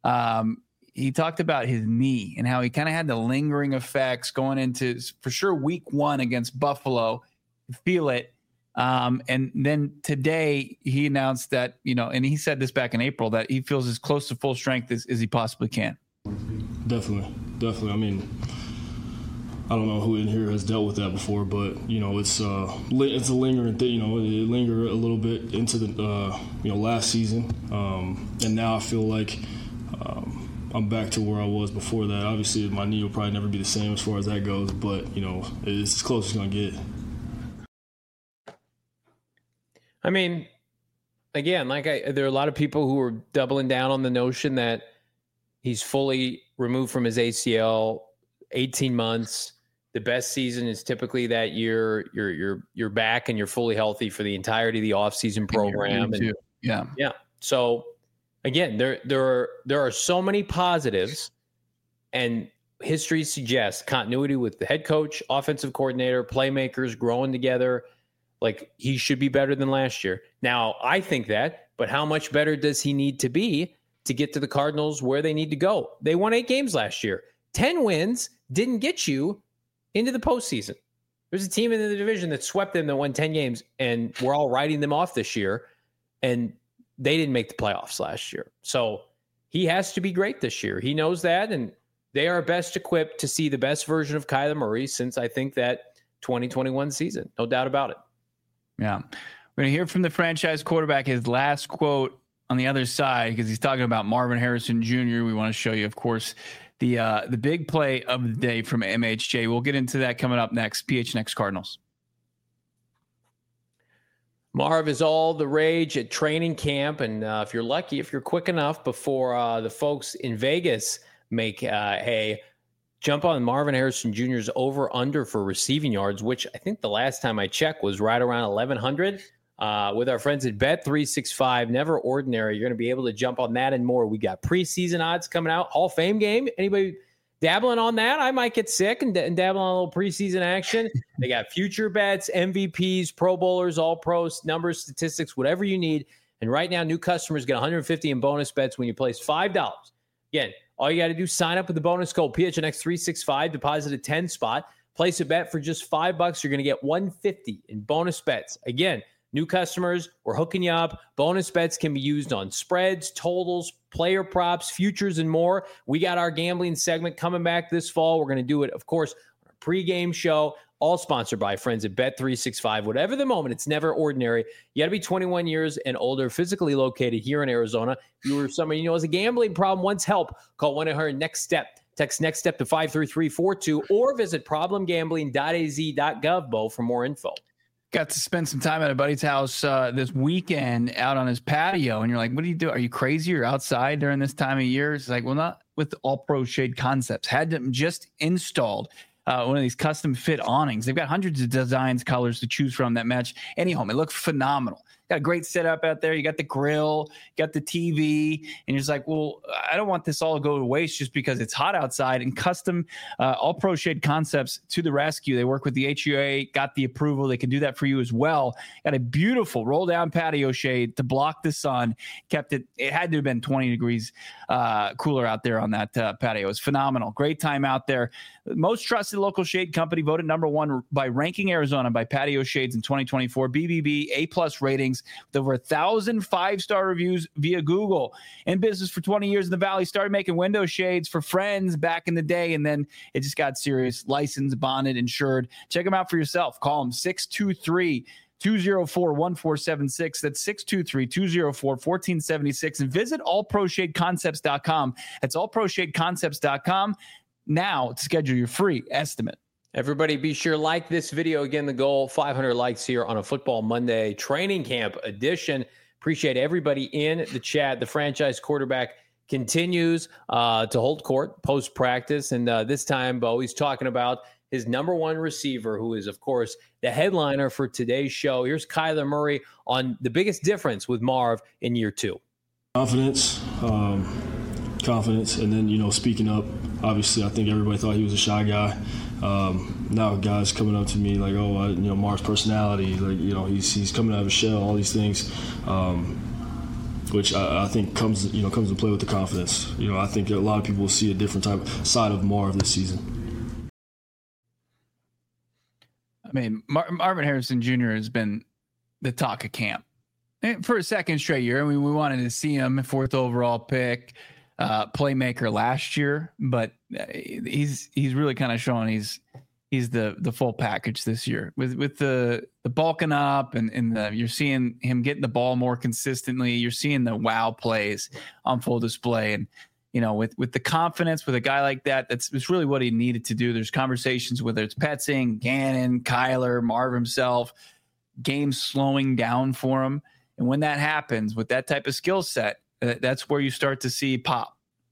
He talked about his knee and how he kind of had the lingering effects going into, for sure, week 1 against Buffalo. Feel it. And then today he announced that, and he said this back in April, that he feels as close to full strength as he possibly can. Definitely. I mean, I don't know who in here has dealt with that before, but it's a lingering thing. It lingered a little bit into the last season, and now I feel like I'm back to where I was before that. Obviously, my knee will probably never be the same as far as that goes, but it's as close as it's gonna get. I mean, again, there are a lot of people who are doubling down on the notion that he's fully removed from his ACL, 18 months. The best season is typically that you're back and you're fully healthy for the entirety of the offseason program. Yeah. So again, there are so many positives, and history suggests continuity with the head coach, offensive coordinator, playmakers growing together. Like, he should be better than last year. Now, I think that, but how much better does he need to be to get to the Cardinals where they need to go? They won 8 games last year. 10 wins didn't get you into the postseason. There's a team in the division that swept them that won 10 games, and we're all writing them off this year, and they didn't make the playoffs last year. So he has to be great this year. He knows that, and they are best equipped to see the best version of Kyler Murray since, I think, that 2021 season. No doubt about it. Yeah. We're going to hear from the franchise quarterback, his last quote on the other side, because he's talking about Marvin Harrison Jr. We want to show you, of course, the big play of the day from MHJ. We'll get into that coming up next. PHNX Cardinals. Marv is all the rage at training camp, and if you're lucky, if you're quick enough before the folks in Vegas make hay, jump on Marvin Harrison Jr.'s over-under for receiving yards, which I think the last time I checked was right around 1,100. With our friends at Bet365, never ordinary. You're going to be able to jump on that and more. We got preseason odds coming out. Hall of Fame game. Anybody dabbling on that? I might get sick and dabble on a little preseason action. They got future bets, MVPs, Pro Bowlers, All-Pros, numbers, statistics, whatever you need. And right now, new customers get $150 in bonus bets when you place $5. Again, all you got to do is sign up with the bonus code PHNX365, deposit a 10 spot, place a bet for just $5. You're going to get $150 in bonus bets. Again, new customers, we're hooking you up. Bonus bets can be used on spreads, totals, player props, futures, and more. We got our gambling segment coming back this fall. We're going to do it, of course, on a pregame show, all sponsored by friends at Bet365. Whatever the moment, it's never ordinary. You got to be 21 years and older, physically located here in Arizona. If you or somebody has a gambling problem, wants help, call 1-800-NEXT-STEP. Text Next Step to 53342 or visit problemgambling.az.gov, Bo, for more info. Got to spend some time at a buddy's house this weekend out on his patio. And you're like, what do you do? Are you crazy? You're outside during this time of year? It's like, well, not with All Pro Shade Concepts. Had them just installed one of these custom fit awnings. They've got hundreds of designs, colors to choose from that match any home. It looks phenomenal. Got a great setup out there. You got the grill, you got the TV, and you're just like, well, I don't want this all to go to waste just because it's hot outside. And custom All Pro Shade Concepts to the rescue. They work with the HUA, got the approval. They can do that for you as well. Got a beautiful roll down patio shade to block the sun. Kept it had to have been 20 degrees cooler out there on that patio. It was phenomenal. Great time out there. Most trusted local shade company, voted #1 by Ranking Arizona by Patio Shades in 2024. BBB A+ ratings with over 1,000 5-star reviews via Google. In business for 20 years in the Valley, started making window shades for friends back in the day, and then it just got serious. Licensed, bonded, insured. Check them out for yourself. Call them 623-204-1476. That's 623-204-1476. And visit allproshadeconcepts.com. That's allproshadeconcepts.com now to schedule your free estimate. Everybody be sure to like this video. Again, the goal, 500 likes here on a Football Monday training camp edition. Appreciate everybody in the chat. The franchise quarterback continues to hold court post-practice. And this time, Bo, he's talking about his #1 receiver, who is, of course, the headliner for today's show. Here's Kyler Murray on the biggest difference with Marv in year 2. Confidence, and then, speaking up. Obviously, I think everybody thought he was a shy guy. Now guys coming up to me like, Marv's personality, like, he's coming out of his shell, all these things, which I think comes to play with the confidence. I think a lot of people will see a different side of Marv this season. I mean, Marvin Harrison Jr. has been the talk of camp for a second straight year. I mean, we wanted to see him 4th overall pick. Playmaker last year, but he's really kind of showing he's he's the full package this year with the bulking up and you're seeing him getting the ball more consistently. You're seeing the wow plays on full display. And, with the confidence with a guy like that, it's really what he needed to do. There's conversations, whether it's Petzing, Gannon, Kyler, Marv himself, games slowing down for him. And when that happens with that type of skill set, that's where you start to see pop.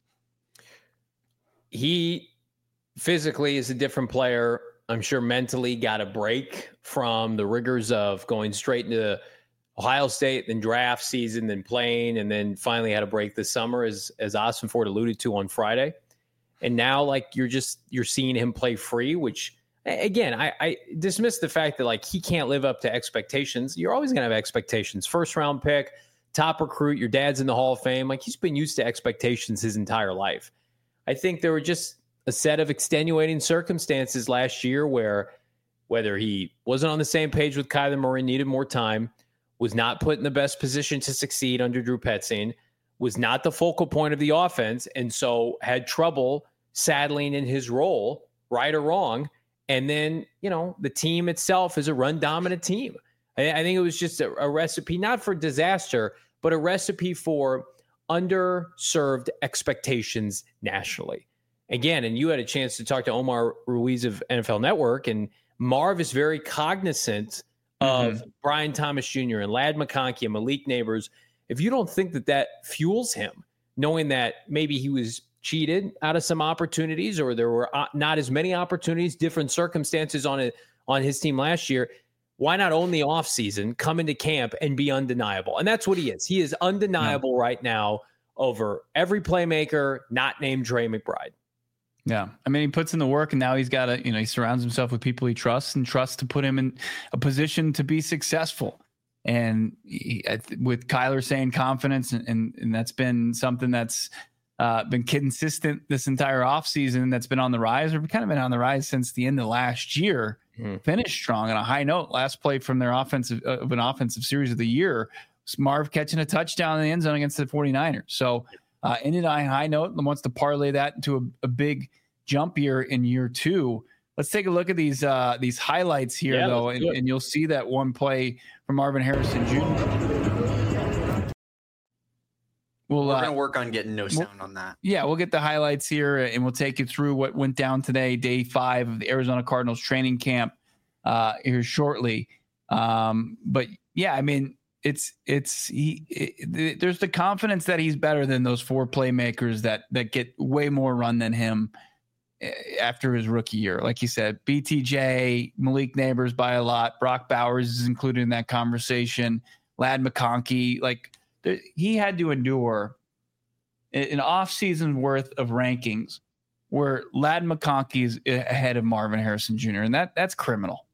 He physically is a different player. I'm sure mentally got a break from the rigors of going straight into Ohio State, then draft season, then playing, and then finally had a break this summer, as Austin Ford alluded to on Friday. And now, like, you're seeing him play free, which, again, I dismiss the fact that, like, he can't live up to expectations. You're always going to have expectations. First round pick, top recruit, your dad's in the Hall of Fame. Like, he's been used to expectations his entire life. I think there were just a set of extenuating circumstances last year where, whether he wasn't on the same page with Kyler Murray, needed more time, was not put in the best position to succeed under Drew Petzing, was not the focal point of the offense, and so had trouble saddling in his role, right or wrong. And then, the team itself is a run-dominant team. I think it was just a recipe, not for disaster, but a recipe for underserved expectations nationally. Again, and you had a chance to talk to Omar Ruiz of NFL Network, and Marv is very cognizant of Brian Thomas Jr. and Ladd McConkey and Malik Neighbors. If you don't think that fuels him, knowing that maybe he was cheated out of some opportunities, or there were not as many opportunities, different circumstances on his team last year, why not own the offseason, come into camp, and be undeniable? And that's what he is. He is undeniable right now over every playmaker not named Trey McBride. Yeah. I mean, he puts in the work, and now he's got to, he surrounds himself with people he trusts to put him in a position to be successful. And with Kyler saying confidence, and that's been something that's been consistent this entire offseason, that's been on the rise, or kind of been on the rise since the end of last year. Finished strong on a high note. Last play from their offensive series of the year was Marv catching a touchdown in the end zone against the 49ers. So ended on a high note, and wants to parlay that into a big jump year in year two. Let's take a look at these highlights here, though, and you'll see that one play from Marvin Harrison Jr. We're going to work on getting no sound on that. Yeah, we'll get the highlights here, and we'll take you through what went down today, day 5 of the Arizona Cardinals training camp here shortly. But yeah, I mean, there's the confidence that he's better than those 4 playmakers that get way more run than him after his rookie year. Like you said, BTJ, Malik Neighbors by a lot. Brock Bowers is included in that conversation. Ladd McConkey, he had to endure an off-season worth of rankings where Ladd McConkey is ahead of Marvin Harrison Jr., and that's criminal.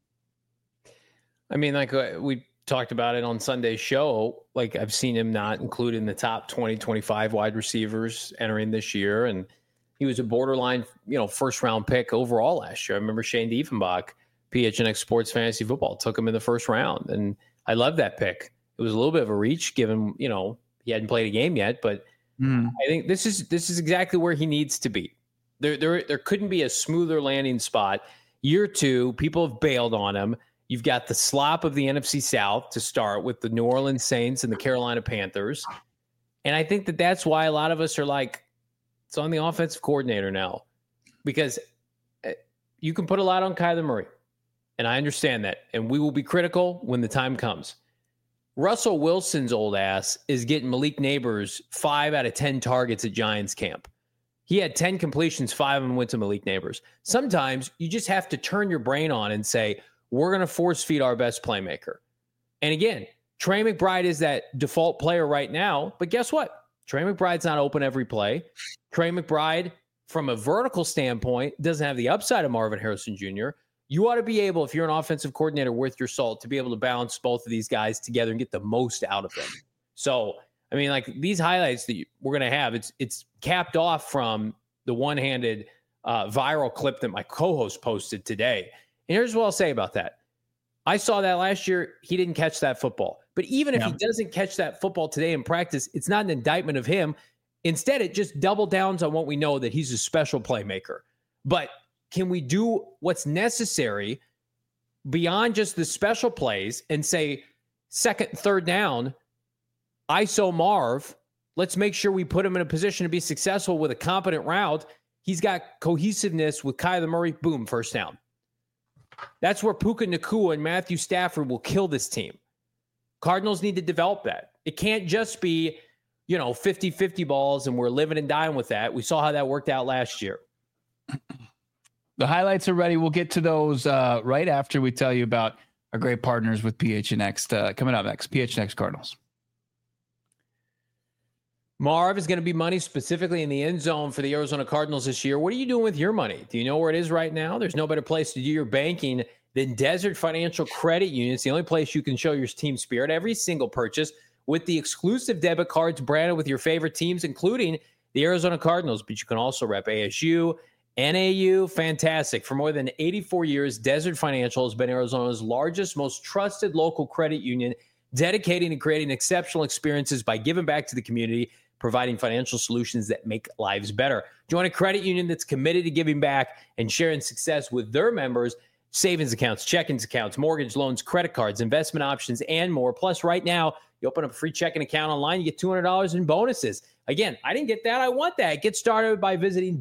I mean, like we talked about it on Sunday's show, like I've seen him not included in the top 20, 25 wide receivers entering this year, and he was a borderline, first-round pick overall last year. I remember Shane Diefenbach, PHNX Sports Fantasy Football, took him in the first round, and I love that pick. It was a little bit of a reach given, he hadn't played a game yet, but I think this is exactly where he needs to be. There couldn't be a smoother landing spot. Year 2, people have bailed on him. You've got the slop of the NFC South to start with the New Orleans Saints and the Carolina Panthers. And I think that's why a lot of us are like, it's on the offensive coordinator now, because you can put a lot on Kyler Murray, and I understand that. And we will be critical when the time comes. Russell Wilson's old ass is getting Malik Neighbors 5 out of 10 targets at Giants camp. He had 10 completions, 5 of them went to Malik Neighbors. Sometimes you just have to turn your brain on and say, we're going to force feed our best playmaker. And again, Trey McBride is that default player right now, but guess what? Trey McBride's not open every play. Trey McBride, from a vertical standpoint, doesn't have the upside of Marvin Harrison Jr. You ought to be able, if you're an offensive coordinator worth your salt, to be able to balance both of these guys together and get the most out of them. So, I mean, like these highlights that we're going to have, it's capped off from the one-handed viral clip that my co-host posted today. And here's what I'll say about that. I saw that last year. He didn't catch that football. But even if he doesn't catch that football today in practice, it's not an indictment of him. Instead, it just double downs on what we know, that he's a special playmaker. But can we do what's necessary beyond just the special plays and say, second, third down, ISO Marv, let's make sure we put him in a position to be successful with a competent route. He's got cohesiveness with Kyler Murray, boom, first down. That's where Puka Nacua and Matthew Stafford will kill this team. Cardinals need to develop that. It can't just be, 50-50 balls and we're living and dying with that. We saw how that worked out last year. The highlights are ready. We'll get to those right after we tell you about our great partners with PHNX coming up next. PHNX Cardinals. Marv is going to be money specifically in the end zone for the Arizona Cardinals this year. What are you doing with your money? Do you know where it is right now? There's no better place to do your banking than Desert Financial Credit Union. It's the only place you can show your team spirit. Every single purchase with the exclusive debit cards branded with your favorite teams, including the Arizona Cardinals. But you can also rep ASU, NAU. Fantastic. For more than 84 years, Desert Financial has been Arizona's largest, most trusted local credit union, dedicating to creating exceptional experiences by giving back to the community, providing financial solutions that make lives better. Join a credit union that's committed to giving back and sharing success with their members. Savings accounts, checkings accounts, mortgage loans, credit cards, investment options, and more. Plus, right now, you open up a free checking account online, you get $200 in bonuses. Again, I didn't get that. I want that. Get started by visiting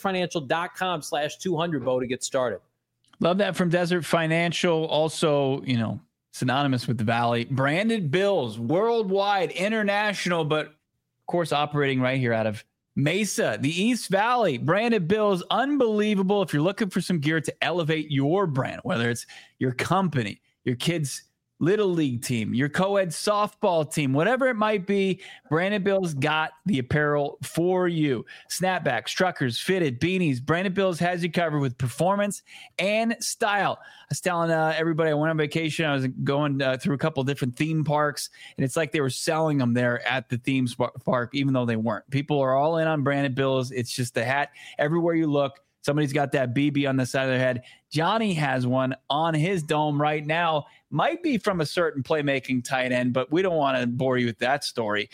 desertfinancial.com/200, to get started. Love that from Desert Financial. Also, synonymous with the Valley. Branded bills, worldwide, international, but of course, operating right here out of Mesa, the East Valley. Branded bills, unbelievable. If you're looking for some gear to elevate your brand, whether it's your company, your kids' little league team, your co-ed softball team, whatever it might be, Branded Bills got the apparel for you. Snapbacks, truckers, fitted, beanies. Branded Bills has you covered with performance and style. I was telling everybody I went on vacation. I was going through a couple of different theme parks, and it's like they were selling them there at the theme park, even though they weren't. People are all in on Branded Bills. It's just the hat. Everywhere you look, somebody's got that BB on the side of their head. Johnny has one on his dome right now. Might be from a certain playmaking tight end, but we don't want to bore you with that story.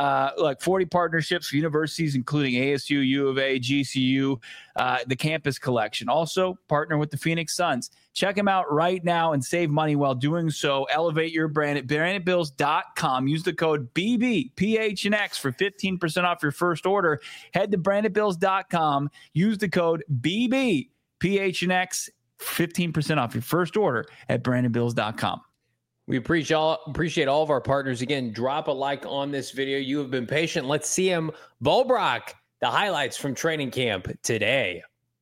40 partnerships for universities, including ASU, U of A, GCU, the campus collection. Also, partner with the Phoenix Suns. Check them out right now and save money while doing so. Elevate your brand at brandedbills.com. Use the code BBPHNX for 15% off your first order. Head to brandedbills.com. Use the code BBPHNX. 15% off your first order at brandedbills.com. We appreciate all of our partners. Again, drop a like on this video. You have been patient. Let's see him. Bo Brock, the highlights from training camp today.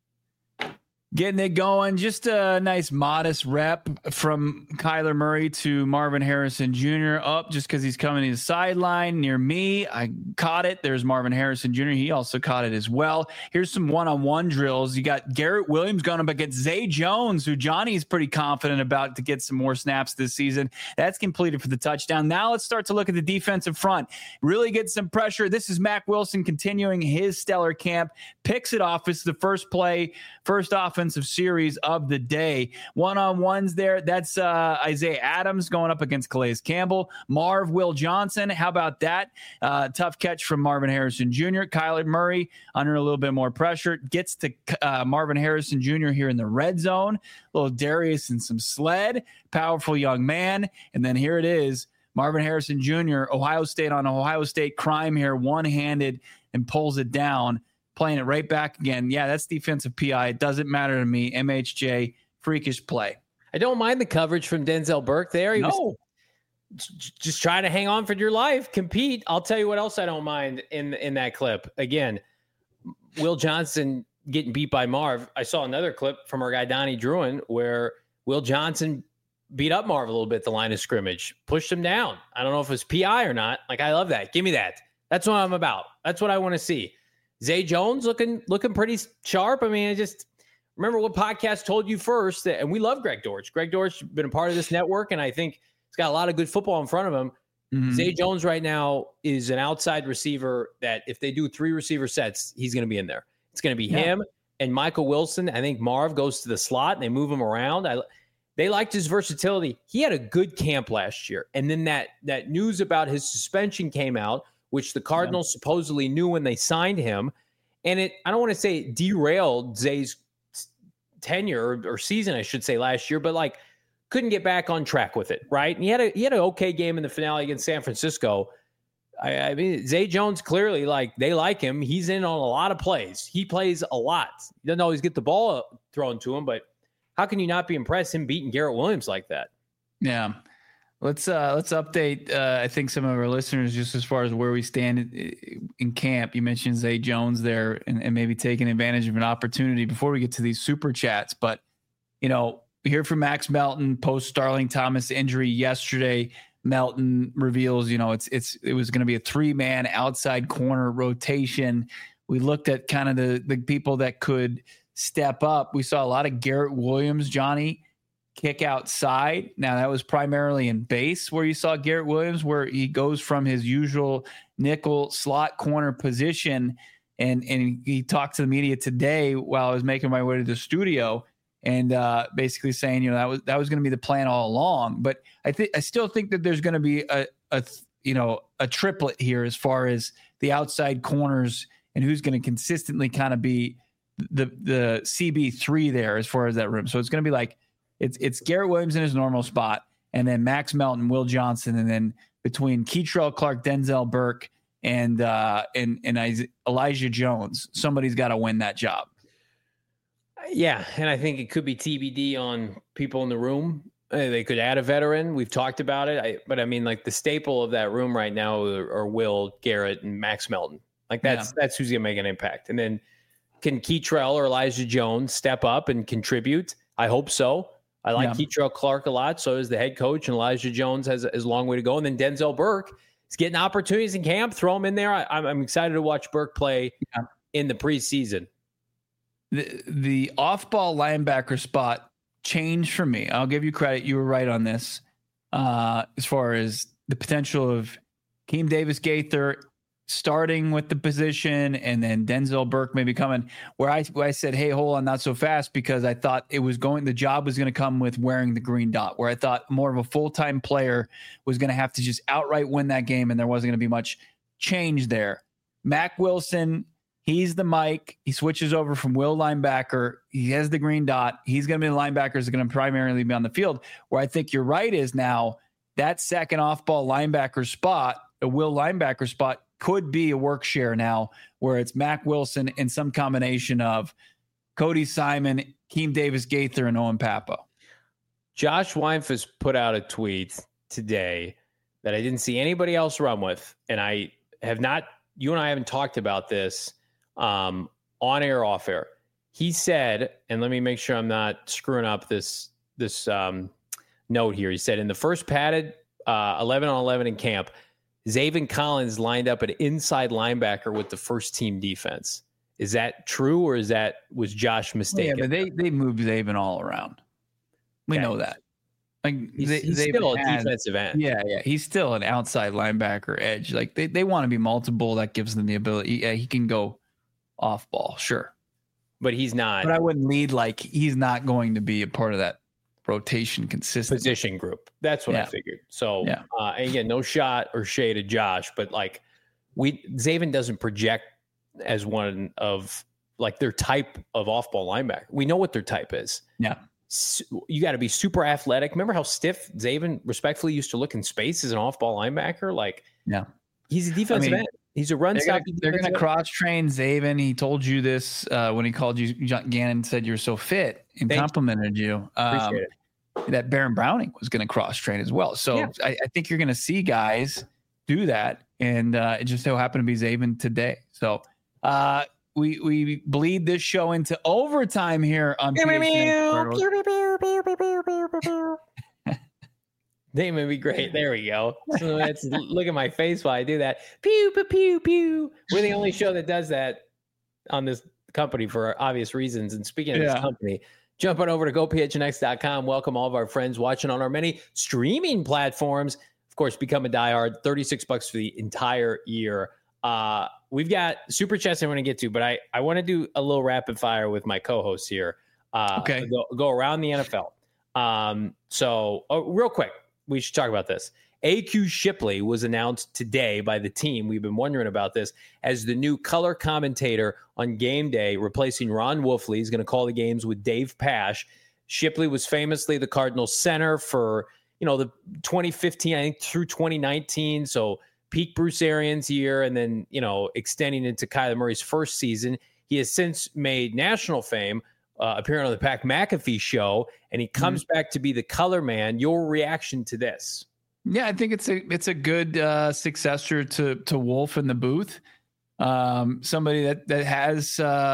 Getting it going. Just a nice modest rep from Kyler Murray to Marvin Harrison Jr. up just because he's coming to the sideline near me. I caught it. There's Marvin Harrison Jr. He also caught it as well. Here's some one-on-one drills. You got Garrett Williams going up against Zay Jones, who Johnny's pretty confident about to get some more snaps this season. That's completed for the touchdown. Now let's start to look at the defensive front. Really get some pressure. This is Mack Wilson continuing his stellar camp. Picks it off. It's the first offensive series of the day. One-on-ones there. That's Isaiah Adams going up against Calais Campbell. Will Johnson. How about that? Tough catch from Marvin Harrison Jr. Kyler Murray under a little bit more pressure. Gets to Marvin Harrison Jr. here in the red zone. A little Darius and some sled. Powerful young man. And then here it is. Marvin Harrison Jr., Ohio State on Ohio State crime here, one-handed, and pulls it down. Playing it right back again. Yeah, that's defensive PI. It doesn't matter to me. MHJ, freakish play. I don't mind the coverage from Denzel Burke there. He was just trying to hang on for your life, compete. I'll tell you what else I don't mind in that clip. Again, Will Johnson getting beat by Marv. I saw another clip from our guy Donnie Druin where Will Johnson beat up Marv a little bit at the line of scrimmage, pushed him down. I don't know if it was PI or not. Like, I love that. Give me that. That's what I'm about. That's what I want to see. Zay Jones looking pretty sharp. I mean, I just remember what podcast told you first, and we love Greg Dortch. Greg Dortch has been a part of this network, and I think he's got a lot of good football in front of him. Mm-hmm. Zay Jones right now is an outside receiver that if they do 3 receiver sets, he's going to be in there. It's going to be him and Michael Wilson. I think Marv goes to the slot, and they move him around. They liked his versatility. He had a good camp last year, and then that news about his suspension came out, which the Cardinals supposedly knew when they signed him. And I don't want to say it derailed Zay's tenure or season, I should say, last year, but like couldn't get back on track with it, right? And he had an okay game in the finale against San Francisco. I mean, Zay Jones, clearly, like, they like him. He's in on a lot of plays. He plays a lot. He doesn't always get the ball thrown to him, but how can you not be impressed him beating Garrett Williams like that? Yeah. Let's update, I think, some of our listeners just as far as where we stand in camp. You mentioned Zay Jones there and maybe taking advantage of an opportunity before we get to these super chats. But, we hear from Max Melton post Starling Thomas injury yesterday. Melton reveals, it was going to be a 3-man outside corner rotation. We looked at kind of the people that could step up. We saw a lot of Garrett Williams, Johnny, kick outside. Now that was primarily in base where you saw Garrett Williams, where he goes from his usual nickel slot corner position. And he talked to the media today while I was making my way to the studio, and basically saying, that was going to be the plan all along. But I still think that there's going to be a triplet here as far as the outside corners and who's going to consistently kind of be the CB3 there as far as that room. So it's going to be like it's Garrett Williams in his normal spot, and then Max Melton, Will Johnson, and then between Kei'Trel Clark, Denzel Burke, and Elijah Jones, somebody's got to win that job. Yeah, and I think it could be TBD on people in the room. They could add a veteran. We've talked about it. But I mean, like, the staple of that room right now are Will, Garrett, and Max Melton. Like, that's who's going to make an impact. And then can Kei'Trel or Elijah Jones step up and contribute? I hope so. I like Kei'Trel Clark a lot. So is the head coach, and Elijah Jones has a long way to go. And then Denzel Burke is getting opportunities in camp. Throw him in there. I'm excited to watch Burke play in the preseason. The off-ball linebacker spot changed for me. I'll give you credit. You were right on this. As far as the potential of Keem Davis-Gaither starting with the position, and then Denzel Burke maybe coming, where I said, hey, hold on, not so fast, because I thought the job was going to come with wearing the green dot, where I thought more of a full-time player was going to have to just outright win that game, and there wasn't going to be much change there. Mack Wilson, he's the Mike. He switches over from Will linebacker. He has the green dot. He's going to be the linebackers that are going to primarily be on the field. Where I think you're right is now that second off-ball linebacker spot, a Will linebacker spot, could be a work share now, where it's Mack Wilson and some combination of Cody Simon, Keem Davis-Gaither, and Owen Pappoe. Josh Weinfuss put out a tweet today that I didn't see anybody else run with, and I have not. You and I haven't talked about this on air, off air. He said, and let me make sure I'm not screwing up this note here. He said, in the first padded 11-on-11 in camp, Zaven Collins lined up an inside linebacker with the first team defense. Is that true, or was Josh mistaken? Yeah, but they moved Zaven all around. We know that. Like he's still a defensive end. Yeah. He's still an outside linebacker edge. Like they want to be multiple. That gives them the ability. Yeah, he can go off ball, sure, but he's not. But I wouldn't lead like he's not going to be a part of that rotation consistent position group. That's what I figured. So again, no shot or shade at Josh, but like Zaven doesn't project as one of like their type of off-ball linebacker. We know what their type is. Yeah. You got to be super athletic. Remember how stiff Zaven respectfully used to look in space as an off-ball linebacker? Like, he's a defensive end. He's a run stop. They're going to cross-train Zaven. He told you this when he called you. Gannon said you're so fit and complimented you. Appreciate it. That Baron Browning was going to cross-train as well. So I think you're going to see guys do that, and it just so happened to be Zaven today. So we bleed this show into overtime here on They may be great. There we go. So look at my face while I do that. Pew, pew, pew, pew. We're the only show that does that on this company for obvious reasons. And speaking of this company, jump on over to gophnx.com. Welcome all of our friends watching on our many streaming platforms. Of course, become a diehard. $36 for the entire year. We've got super chats I want to get to, but I want to do a little rapid fire with my co-hosts here. Go around the NFL. So real quick, we should talk about this. AQ Shipley was announced today by the team. We've been wondering about this as the new color commentator on game day, replacing Ron Wolfley. He's going to call the games with Dave Pasch. Shipley was famously the Cardinals center for, the 2015, I think, through 2019. So peak Bruce Arians year, and then, extending into Kyler Murray's first season. He has since made national fame, appearing on the Pat McAfee show, and he comes back to be the color man. Your reaction to this? Yeah, I think it's a good successor to Wolf in the booth. Somebody that has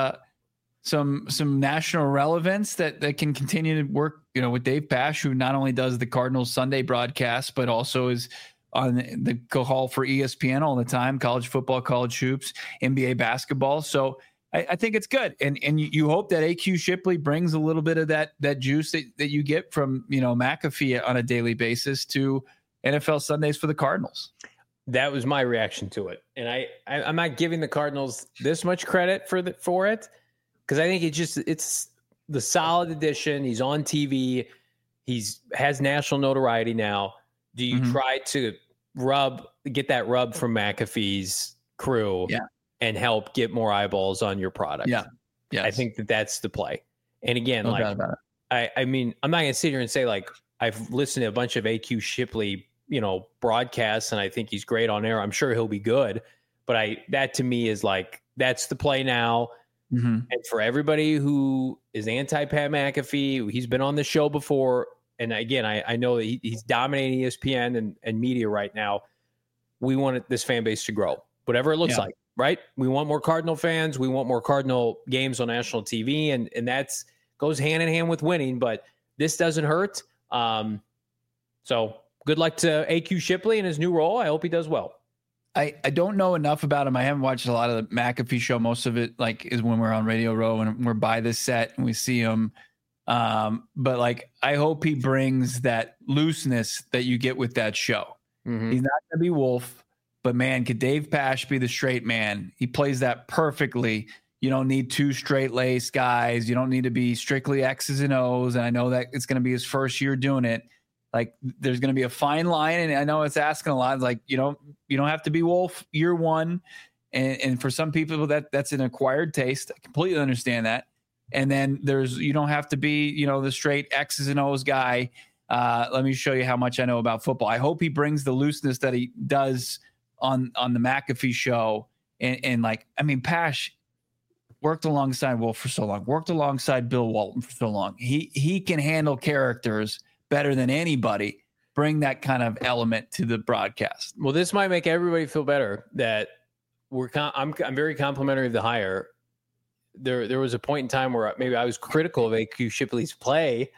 some national relevance that can continue to work, with Dave Pasch, who not only does the Cardinals Sunday broadcast, but also is on the call for ESPN all the time, college football, college hoops, NBA basketball. So I think it's good. And you hope that AQ Shipley brings a little bit of that juice that you get from, McAfee on a daily basis to NFL Sundays for the Cardinals. That was my reaction to it. And I'm not giving the Cardinals this much credit for it, because I think it's the solid addition. He's on TV. Has national notoriety now. Do you try to get that rub from McAfee's crew and help get more eyeballs on your product? Yeah. Yes. I think that's the play. And again, I mean, I'm not going to sit here and say, like, I've listened to a bunch of AQ Shipley, broadcasts, and I think he's great on air. I'm sure he'll be good, but that to me is like, that's the play now. And for everybody who is anti-Pat McAfee, he's been on the show before. And again, I know that he's dominating ESPN and media right now. We want this fan base to grow, whatever it looks like, right? We want more Cardinal fans. We want more Cardinal games on national TV, and that's goes hand in hand with winning, but this doesn't hurt. So good luck to AQ Shipley in his new role. I hope he does well. I don't know enough about him. I haven't watched a lot of the McAfee show. Most of it is when we're on Radio Row and we're by the set and we see him. But I hope he brings that looseness that you get with that show. He's not going to be Wolf, but man, could Dave Pasch be the straight man? He plays that perfectly. You don't need two straight lace guys. You don't need to be strictly X's and O's. And I know that it's going to be his first year doing it. There's going to be a fine line. And I know it's asking a lot. You don't have to be Wolf year one. And for some people that's an acquired taste. I completely understand that. And then you don't have to be, the straight X's and O's guy. Let me show you how much I know about football. I hope he brings the looseness that he does on the McAfee show. And Pasch worked alongside Wolf for so long, worked alongside Bill Walton for so long. He can handle characters better than anybody. Bring that kind of element to the broadcast. Well, this might make everybody feel better that I'm very complimentary of the hire. There was a point in time where maybe I was critical of AQ Shipley's play.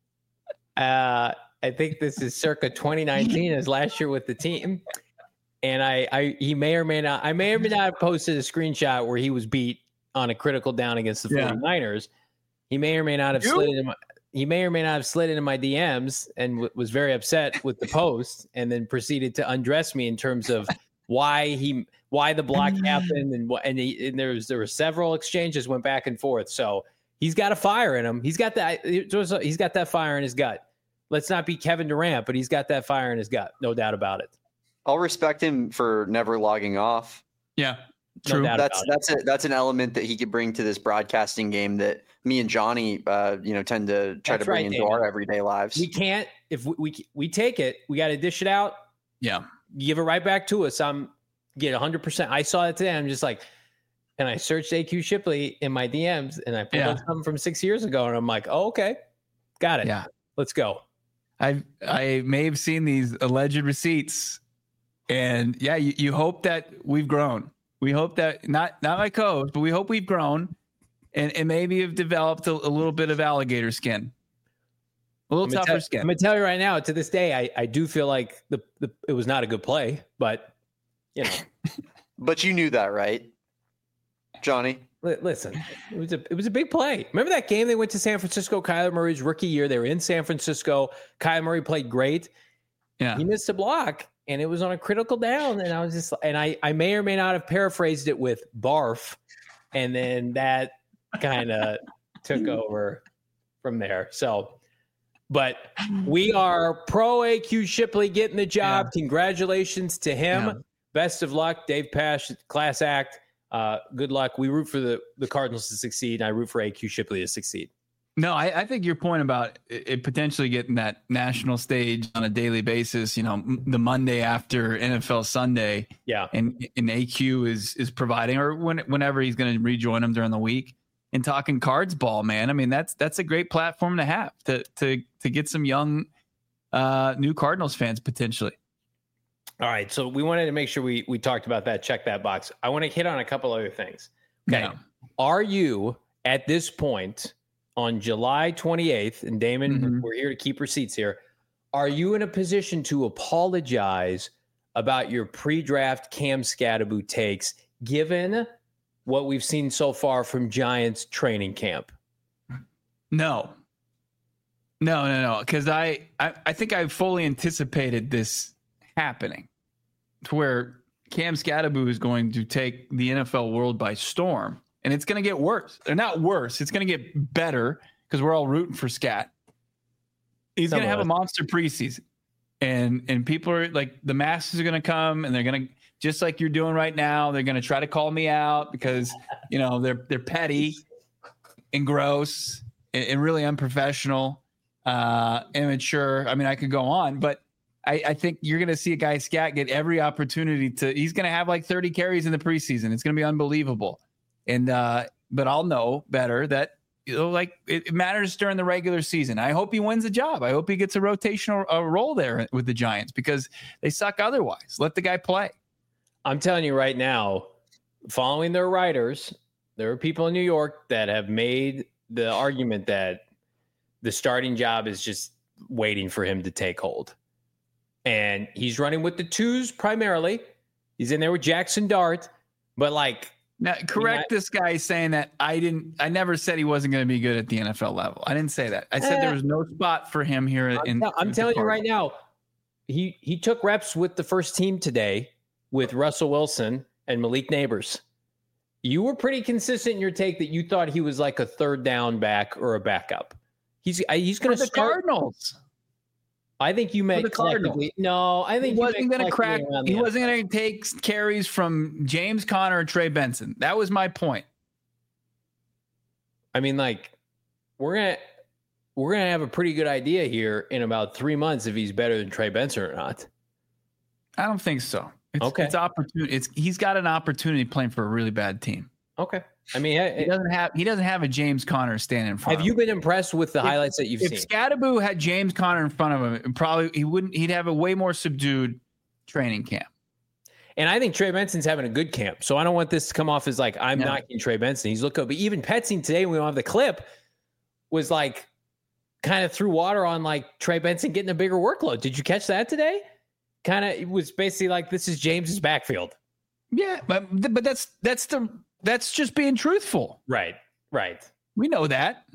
I think this is circa 2019, as last year with the team. And he may or may not have posted a screenshot where he was beat on a critical down against the 49ers. He may or may not have slid into my DMs and was very upset with the post, and then proceeded to undress me in terms of why the block happened, and there were several exchanges went back and forth. So he's got a fire in him. He's got that fire in his gut. Let's not be Kevin Durant, but he's got that fire in his gut, no doubt about it. I'll respect him for never logging off. Yeah, true. No That's an element that he could bring to this broadcasting game that me and Johnny, tend to try to bring into our everyday lives. We can't, if we take it, we got to dish it out. Yeah. Give it right back to us. Get 100%. I saw it today. I'm just like, and I searched AQ Shipley in my DMs and I pulled up something from 6 years ago and I'm like, oh, okay. Got it. Yeah. Let's go. I may have seen these alleged receipts, and you hope that we've grown. We hope that not my coach, but we hope we've grown and maybe have developed a little bit of alligator skin, a little tougher skin. I'm gonna tell you right now, to this day, I do feel like it was not a good play, but but you knew that, right, Johnny? Listen, it was a big play. Remember that game they went to San Francisco, Kyler Murray's rookie year? They were in San Francisco. Kyler Murray played great. Yeah, he missed a block, and it was on a critical down. And I was just, and I may or may not have paraphrased it with barf, and then that kind of took over from there. So, But we are pro AQ Shipley getting the job. Yeah. Congratulations to him. Yeah. Best of luck. Dave Pasch, class act. Good luck. We root for the Cardinals to succeed, and I root for AQ Shipley to succeed. No, I think your point about it potentially getting that national stage on a daily basis, the Monday after NFL Sunday, Yeah. and AQ is providing, or whenever he's going to rejoin them during the week, and talking Cards ball, man. I mean, that's a great platform to have to get some young new Cardinals fans potentially. All right, so we wanted to make sure we talked about that. Check that box. I want to hit on a couple other things. Okay, Yeah. Are you at this point on July 28th, and Damon, we're here to keep receipts here, are you in a position to apologize about your pre-draft Cam Skattebo takes, given what we've seen so far from Giants training camp? No, because I think I fully anticipated this happening, to where Cam Skattebo is going to take the NFL world by storm, and it's going to get worse. They're not worse. It's going to get better because we're all rooting for Scat. He's going to have a monster preseason, and people are like, the masses are going to come, and they're going to, just like you're doing right now, they're going to try to call me out because they're petty and gross and really unprofessional, immature. I mean, I could go on, but I think you're going to see a guy Scat get every opportunity he's going to have like 30 carries in the preseason. It's going to be unbelievable. And, but I'll know better that, it matters during the regular season. I hope he wins the job. I hope he gets a rotational role there with the Giants because they suck otherwise. Let the guy play. I'm telling you right now, following their writers, there are people in New York that have made the argument that the starting job is just waiting for him to take hold. And he's running with the twos primarily. He's in there with Jackson Dart, but now correct this guy saying that I never said he wasn't going to be good at the NFL level. I didn't say that. I said there was no spot for him here. I'm telling you right now, he took reps with the first team today with Russell Wilson and Malik Neighbors. You were pretty consistent in your take that you thought he was like a third down back or a backup. He's going to the start. Cardinals. I think you meant collectively. No, I think he wasn't going to crack. He wasn't going to take carries from James Conner or Trey Benson. That was my point. I mean, we're gonna have a pretty good idea here in about 3 months if he's better than Trey Benson or not. I don't think so. Okay. It's opportunity. He's got an opportunity playing for a really bad team. Okay. I mean, he doesn't have a James Conner standing in front. Have you been impressed with the highlights that you've seen? If Skattebo had James Conner in front of him, probably he'd have a way more subdued training camp. And I think Trey Benson's having a good camp. So I don't want this to come off as I'm knocking Trey Benson. He's looked good. But even Petsing today, when we don't have the clip, was kind of threw water on Trey Benson getting a bigger workload. Did you catch that today? It was basically this is James's backfield. Yeah, but that's just being truthful. Right. We know that.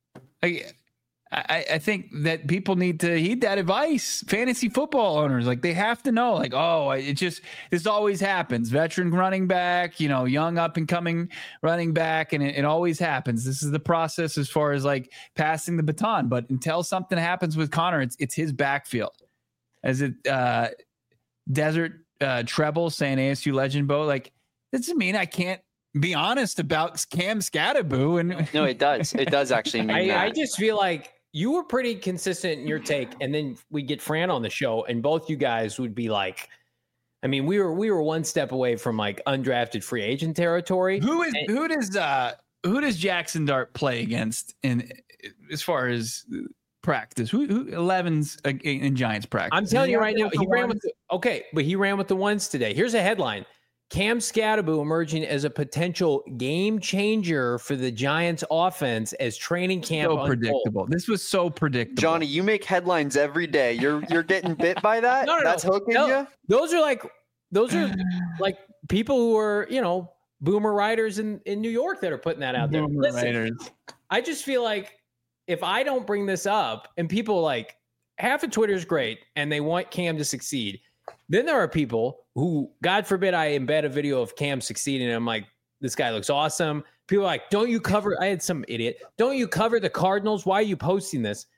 I think that people need to heed that advice. Fantasy football owners, they have to know, this always happens. Veteran running back, young up and coming running back, and it always happens. This is the process as far as passing the baton. But until something happens with Connor, it's his backfield. As it Desert Treble saying ASU legend Bo, doesn't mean I can't be honest about Cam Skattebo. And no, it does. It does actually mean that. I just feel like you were pretty consistent in your take, and then we get Fran on the show, and both you guys would be we were one step away from undrafted free agent territory. Who does Jackson Dart play against in as far as practice? Who 11's in Giants practice? I'm telling you right now, he ran with the ones today. Here's a headline. Cam Skattebo emerging as a potential game changer for the Giants offense as training camp unfolds. Predictable. This was so predictable. Johnny, you make headlines every day. You're getting bit by that? No. That's hooking you? Those are people who are, boomer writers in New York that are putting that out there. Listen, I just feel if I don't bring this up and people half of Twitter is great and they want Cam to succeed. Then there are people who, God forbid, I embed a video of Cam succeeding. And I'm this guy looks awesome. People are don't you cover? I had some idiot. Don't you cover the Cardinals? Why are you posting this?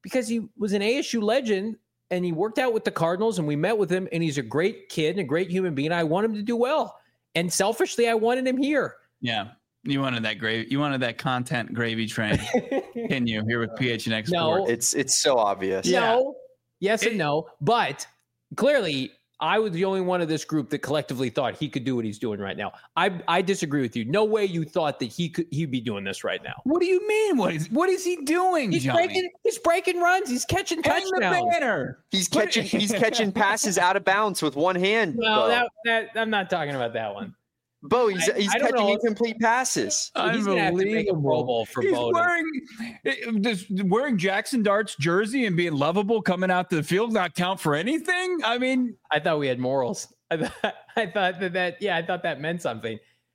because he was an ASU legend and he worked out with the Cardinals and we met with him and he's a great kid and a great human being. I want him to do well. And selfishly, I wanted him here. Yeah. You wanted that gravy. You wanted that content gravy train. Can you here with PHNX No. Sports? It's so obvious. No. Yes and no. But clearly, I was the only one of this group that collectively thought he could do what he's doing right now. I disagree with you. No way you thought that he'd be doing this right now. What do you mean? What is he doing, Johnny? He's breaking runs. He's catching Hang touchdowns. the banner. He's catching passes out of bounds with one hand. No, Bo. that I'm not talking about that one. Bo, he's I don't catching know. incomplete passes. He's gonna have to make a Pro Bowl for He's Bowden. wearing Jackson Dart's jersey and being lovable coming out to the field not count for anything. I mean, I thought we had morals. I thought that meant something.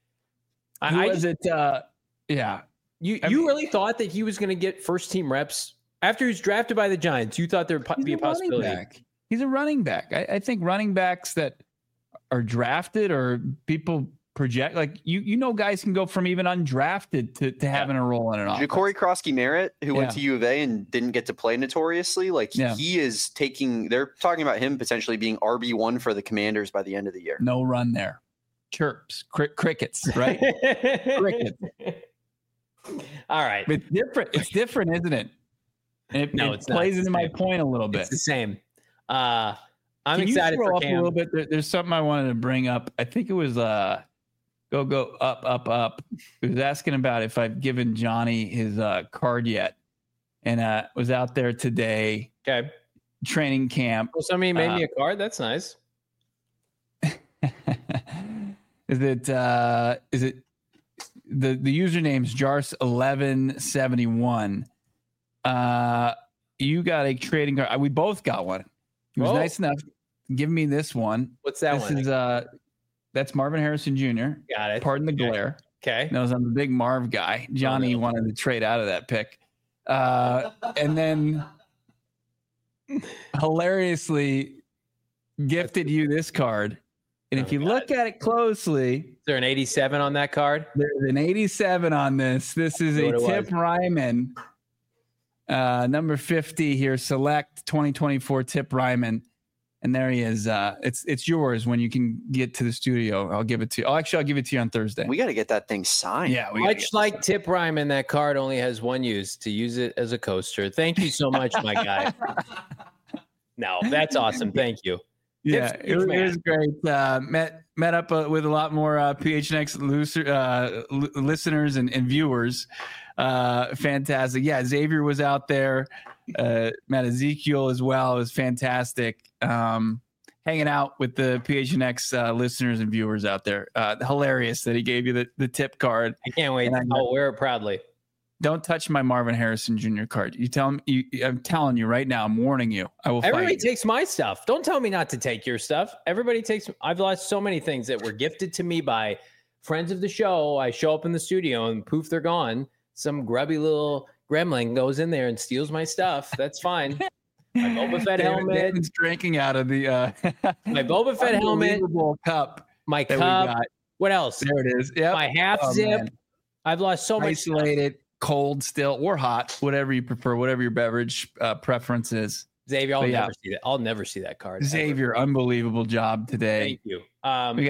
Yeah. You really thought that he was going to get first team reps after he was drafted by the Giants? You thought there'd be a possibility. He's a running back. I think running backs that are drafted or people project, like guys can go from even undrafted to having a role in an offense. Ja'Cory Krosky-Merritt, who went to U of A and didn't get to play notoriously, he is taking. They're talking about him potentially being RB1 for the Commanders by the end of the year. No run there. Chirps, crickets, right? Crickets. All right. It's different. It's different, isn't it? And it plays into my point a little bit. It's the same. I'm Can excited you for up Cam. a little bit. There's something I wanted to bring up. I think it was go up. It was asking about if I've given Johnny his card yet, and was out there today. Okay. Training camp. Well, somebody made me a card. That's nice. Is it the username's Jars1171? You got a trading card. We both got one. He was nice enough to give me this one. What's that this one? Is that's Marvin Harrison Jr. Got it. Pardon the glare. Okay. Knows I'm a big Marv guy. Johnny wanted to trade out of that pick. And then hilariously gifted you this card. And if you look at it closely, is there an 87 on that card? There's an 87 on this. This is a Tip Ryman, number 50 here. Select 2024 Tip Ryman. And there he is. It's yours when you can get to the studio. I'll give it to you. I'll give it to you on Thursday. We got to get that thing signed. Yeah. Much like Tip Ryman, that card only has one use, to use it as a coaster. Thank you so much, my guy. No, that's awesome. Thank you. Yeah, it was great. Met up with a lot more PHNX listeners and viewers. Fantastic. Yeah, Xavier was out there. Met Ezekiel as well. It was fantastic. Hanging out with the PHNX listeners and viewers out there. Hilarious that he gave you the tip card. I can't wait. I'll wear it proudly. Don't touch my Marvin Harrison Jr. card. You tell him. I'm telling you right now. I'm warning you. I will. Everybody takes my stuff. Don't tell me not to take your stuff. Everybody takes. I've lost so many things that were gifted to me by friends of the show. I show up in the studio and poof, they're gone. Some grubby little gremlin goes in there and steals my stuff. That's fine. My Boba Fett helmet. David's drinking out of the my Boba Fett helmet. Cup. My cup. What else? There it is. Yeah. My half zip. Man. I've lost so much. Isolated. Cold still or hot, whatever you prefer, whatever your beverage preference is. Xavier, I'll never see that. I'll never see that card. Xavier, ever. Unbelievable job today. Thank you. We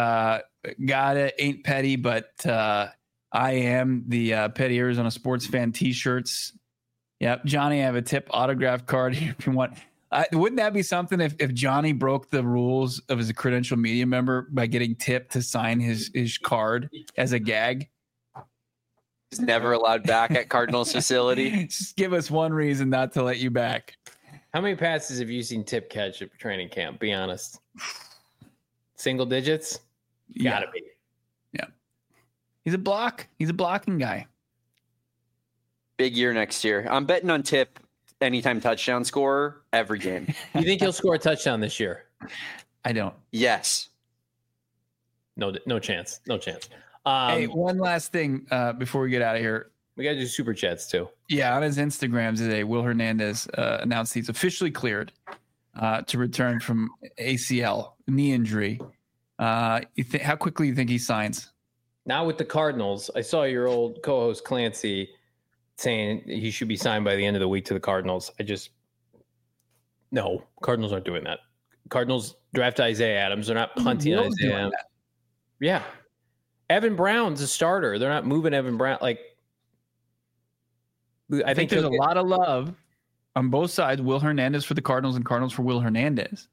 got it. Ain't petty, but I am the Petty Arizona Sports Fan T-shirts. Yep, Johnny, I have a tip autograph card here if you want. Wouldn't that be something if Johnny broke the rules of his credential media member by getting Tip to sign his card as a gag? He's never allowed back at Cardinals facility. Just give us one reason not to let you back. How many passes have you seen Tip catch at training camp? Be honest. Single digits? Gotta be. Yeah. He's a blocking guy. Big year next year. I'm betting on Tip anytime touchdown scorer every game. You think he'll score a touchdown this year? I don't. No Yes. chance. No chance. Hey, one last thing before we get out of here. We got to do super chats too. Yeah, on his Instagram today, Will Hernandez announced he's officially cleared to return from ACL knee injury. How quickly do you think he signs? Not with the Cardinals. I saw your old co-host Clancy saying he should be signed by the end of the week to the Cardinals. No, Cardinals aren't doing that. Cardinals draft Isaiah Adams. They're not punting Isaiah Adams. Yeah. Evan Brown's a starter. They're not moving Evan Brown. Like, I think there's a lot of love on both sides. Will Hernandez for the Cardinals and Cardinals for Will Hernandez.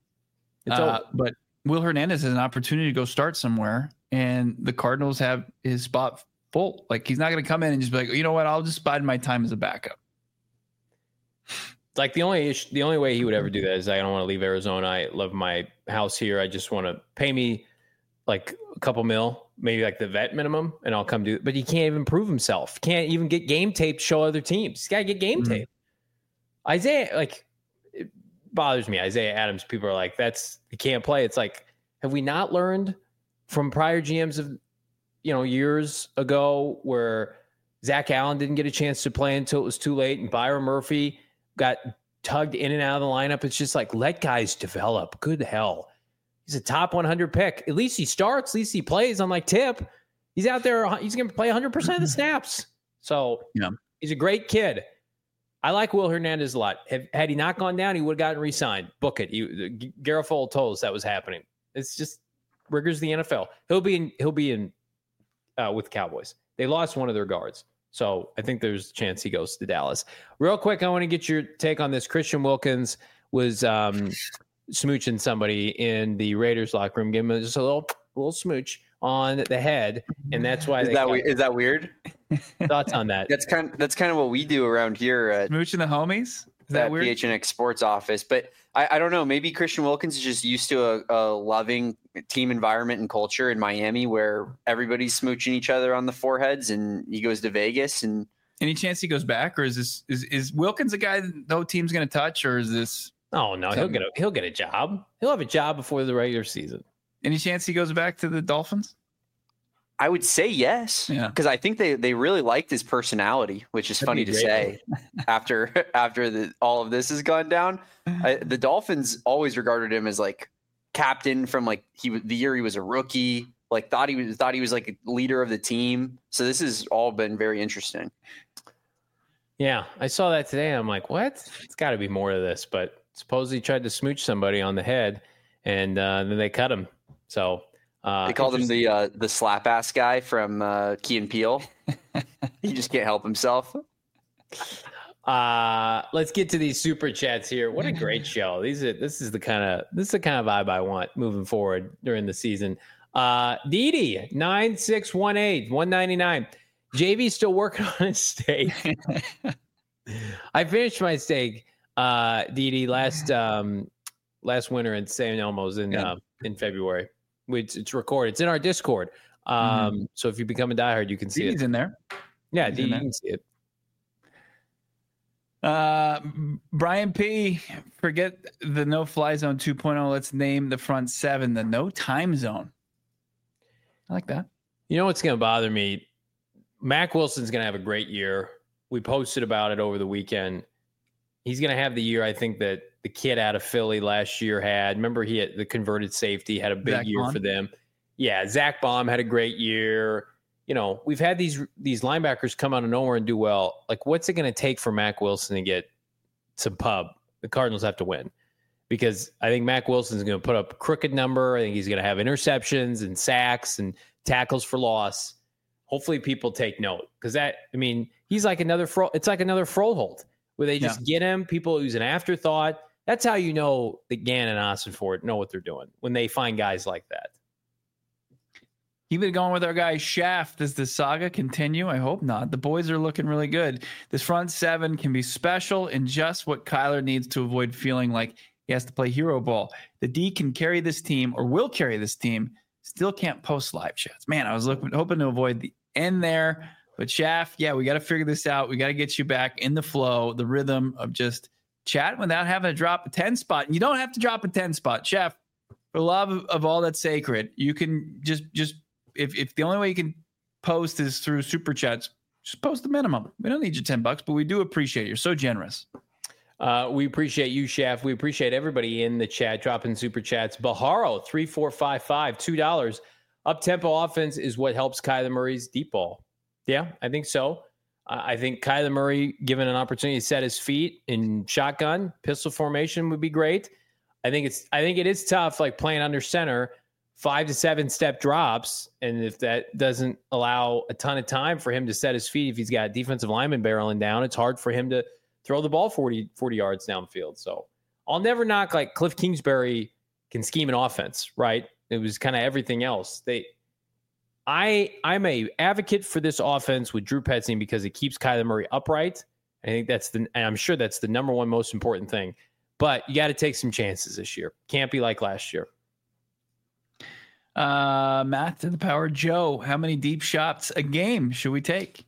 But Will Hernandez has an opportunity to go start somewhere, and the Cardinals have his spot full. Like, he's not going to come in and just be like, you know what, I'll just bide my time as a backup. Like, the only way he would ever do that is, I don't want to leave Arizona. I love my house here. I just want to pay me like a couple mil, maybe like the vet minimum, and I'll come do it. But he can't even prove himself. Can't even get game tape to show other teams. He's got to get game tape. Isaiah, like, it bothers me. Isaiah Adams, people are like, he can't play. It's like, have we not learned from prior GMs of, years ago where Zach Allen didn't get a chance to play until it was too late, and Byron Murphy got tugged in and out of the lineup? It's just like, let guys develop. Good hell. He's a top 100 pick. At least he starts. At least he plays. Unlike Tip, he's out there. He's going to play 100% of the snaps. So he's a great kid. I like Will Hernandez a lot. Had he not gone down, he would have gotten re-signed. Book it. Garofalo told us that was happening. It's just rigors the NFL. He'll be in with Cowboys. They lost one of their guards, so I think there's a chance he goes to Dallas. Real quick, I want to get your take on this. Christian Wilkins was smooching somebody in the Raiders locker room, giving him just a little smooch on the head, and that's why. Is that weird? Thoughts on that? That's kind of what we do around here at smooching the homies. Is that weird? PHNX Sports office, but I don't know. Maybe Christian Wilkins is just used to a loving team environment and culture in Miami where everybody's smooching each other on the foreheads, and he goes to Vegas. And any chance he goes back, or is Wilkins a guy that no team's going to touch, or is this? Oh no, he'll get a job. He'll have a job before the regular season. Any chance he goes back to the Dolphins? I would say yes, because I think they really liked his personality, which is funny to say after all of this has gone down. The Dolphins always regarded him as like captain from like the year he was a rookie. Like thought he was like a leader of the team. So this has all been very interesting. Yeah, I saw that today. I'm like, what? It's got to be more to this. But suppose he tried to smooch somebody on the head, and then they cut him. So. They called him the slap ass guy from Key and Peele. He just can't help himself. Let's get to these super chats here. What a great show! This is the kind of vibe I want moving forward during the season. Didi 9618 199. JV's still working on his steak. I finished my steak, Didi, last winter in San Elmo's in February. It's recorded. It's in our Discord. So if you become a diehard, you can see it. It's in there. Yeah, you can see it. Brian P, forget the no-fly zone 2.0. Let's name the front seven the no time zone. I like that. You know what's going to bother me? Mack Wilson's going to have a great year. We posted about it over the weekend. He's going to have the year, I think, that the kid out of Philly last year had. Remember, he had the converted safety, had a big year for them. Yeah, Zach Baum had a great year. We've had these linebackers come out of nowhere and do well. Like, what's it going to take for Mack Wilson to get some pub? The Cardinals have to win, because I think Mack Wilson's going to put up a crooked number. I think he's going to have interceptions and sacks and tackles for loss. Hopefully people take note, because he's like another it's like another Froholt, where they just get him, people who's an afterthought. That's how you know that Gannon and Ossenfort know what they're doing, when they find guys like that. Keep it going with our guy Shaft. Does the saga continue? I hope not. The boys are looking really good. This front seven can be special and just what Kyler needs to avoid feeling like he has to play hero ball. The D can carry this team, or will carry this team. Still can't post live chats. Man, I was hoping to avoid the end there. But Shaft, we got to figure this out. We got to get you back in the flow, the rhythm of just chatting without having to drop a 10 spot. And you don't have to drop a 10 spot. Shaft, for love of all that's sacred, you can just if the only way you can post is through super chats, just post the minimum. We don't need your $10, but we do appreciate it. You're so generous. We appreciate you, Shaft. We appreciate everybody in the chat dropping super chats. Baharo 3455 $2. Up tempo offense is what helps Kyler Murray's deep ball. Yeah, I think so. I think Kyler Murray, given an opportunity to set his feet in shotgun, pistol formation would be great. I think it is tough, like playing under center, 5 to 7 step drops. And if that doesn't allow a ton of time for him to set his feet, if he's got defensive lineman barreling down, it's hard for him to throw the ball 40 yards downfield. So I'll never knock like Cliff Kingsbury can scheme an offense, right? It was kind of everything else. I'm a advocate for this offense with Drew Petzing because it keeps Kyler Murray upright. I think and I'm sure that's the number one most important thing. But you got to take some chances this year. Can't be like last year. Matt to the power Joe. How many deep shots a game should we take?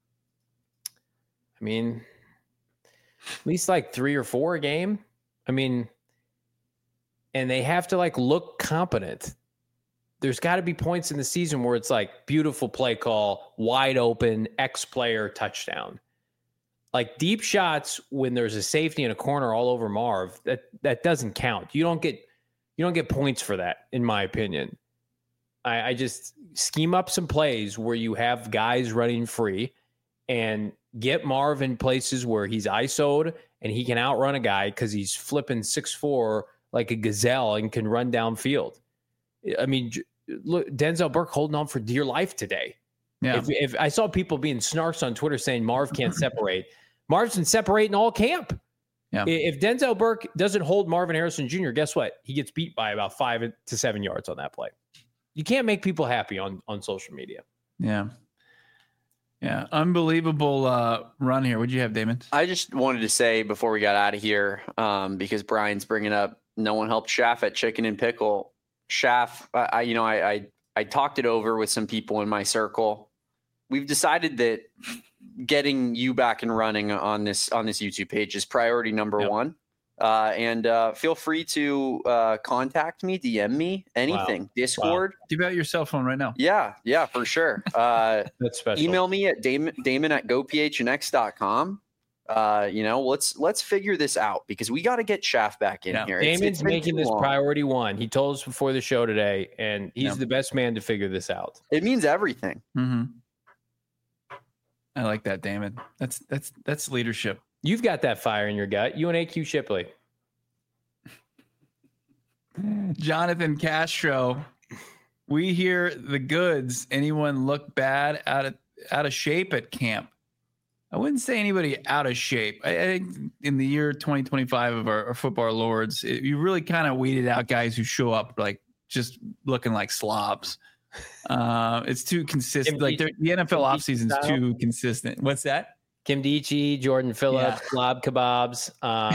I mean, at least like 3 or 4 a game. I mean, and they have to like look competent. There's got to be points in the season where it's like beautiful play call, wide open, X player touchdown. Like deep shots when there's a safety in a corner all over Marv, that doesn't count. You don't get points for that, in my opinion. I just scheme up some plays where you have guys running free and get Marv in places where he's ISO'd and he can outrun a guy because he's flipping 6'4" like a gazelle and can run downfield. I mean, look, Denzel Burke holding on for dear life today. Yeah. If I saw people being snarks on Twitter saying Marv can't separate, Marv's been separating all camp. Yeah. If Denzel Burke doesn't hold Marvin Harrison Jr., guess what? He gets beat by about 5 to 7 yards on that play. You can't make people happy on social media. Yeah. Yeah. Unbelievable run here. What'd you have, Damon? I just wanted to say before we got out of here, because Brian's bringing up no one helped Schaff at Chicken and Pickle. Schaff, I talked it over with some people in my circle. We've decided that getting you back and running on this YouTube page is priority number one. And feel free to contact me, DM me, anything. Wow. Discord. Wow. Give out your cell phone right now. Yeah, for sure. That's special. Email me at damon@gophnx.com. Let's figure this out because we got to get Schaff back in here. Damon's making this priority one. He told us before the show today, and he's the best man to figure this out. It means everything. Mm-hmm. I like that, Damon. That's leadership. You've got that fire in your gut. You and AQ Shipley. Jonathan Castro. We hear the goods. Anyone look bad out of shape at camp? I wouldn't say anybody out of shape. I think in the year 2025 of our Football Lords, you really kind of weeded out guys who show up like just looking like slobs. It's too consistent. Like the NFL offseason is too consistent. What's that? Kim Dichie, Jordan Phillips, slob kebabs.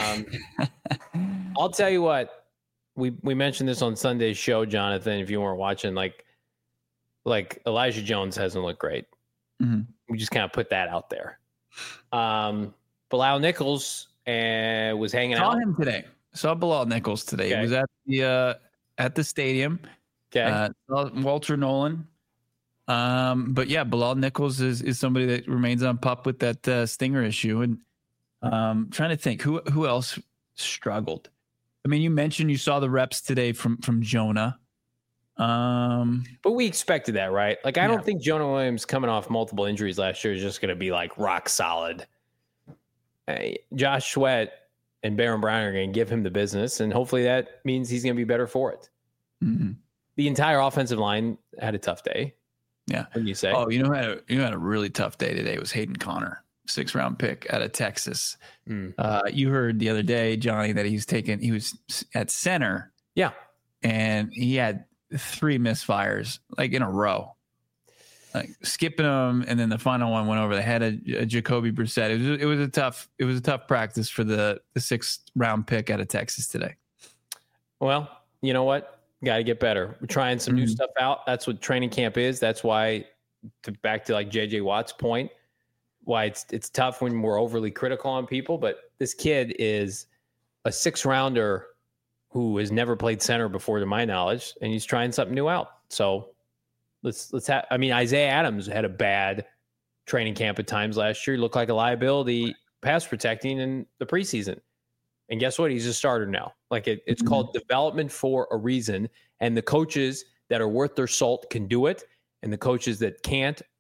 I'll tell you what. We mentioned this on Sunday's show, Jonathan. If you weren't watching, like Elijah Jones hasn't looked great. Mm-hmm. We just kind of put that out there. Bilal Nichols was hanging out. Saw him today. Saw Bilal Nichols today. Okay. He was at the stadium. Okay. Walter Nolan. But yeah, Bilal Nichols is somebody that remains on pup with that stinger issue. And trying to think who else struggled. I mean, you mentioned you saw the reps today from Jonah. But we expected that, right? Like, I don't think Jonah Williams coming off multiple injuries last year is just going to be like rock solid. Josh Sweat and Baron Brown are going to give him the business, and hopefully that means he's going to be better for it. Mm-hmm. The entire offensive line had a tough day. Yeah. When you say, you had a really tough day today. It was Hayden Conner, 6th-round pick out of Texas. You heard the other day, Johnny, that he was at center. Yeah. And he had 3 misfires like in a row, like skipping them. And then the final one went over the head of Jacoby Brissett. It was a tough practice for the 6th-round pick out of Texas today. Well, you know what? Got to get better. We're trying some new stuff out. That's what training camp is. That's why, back to like JJ Watt's point, why it's tough when we're overly critical on people. But this kid is a 6th-rounder who has never played center before, to my knowledge, and he's trying something new out. So let's have. I mean, Isaiah Adams had a bad training camp at times last year. He looked like a liability pass protecting in the preseason. And guess what? He's a starter now. Like it's called development for a reason. And the coaches that are worth their salt can do it. And the coaches that can't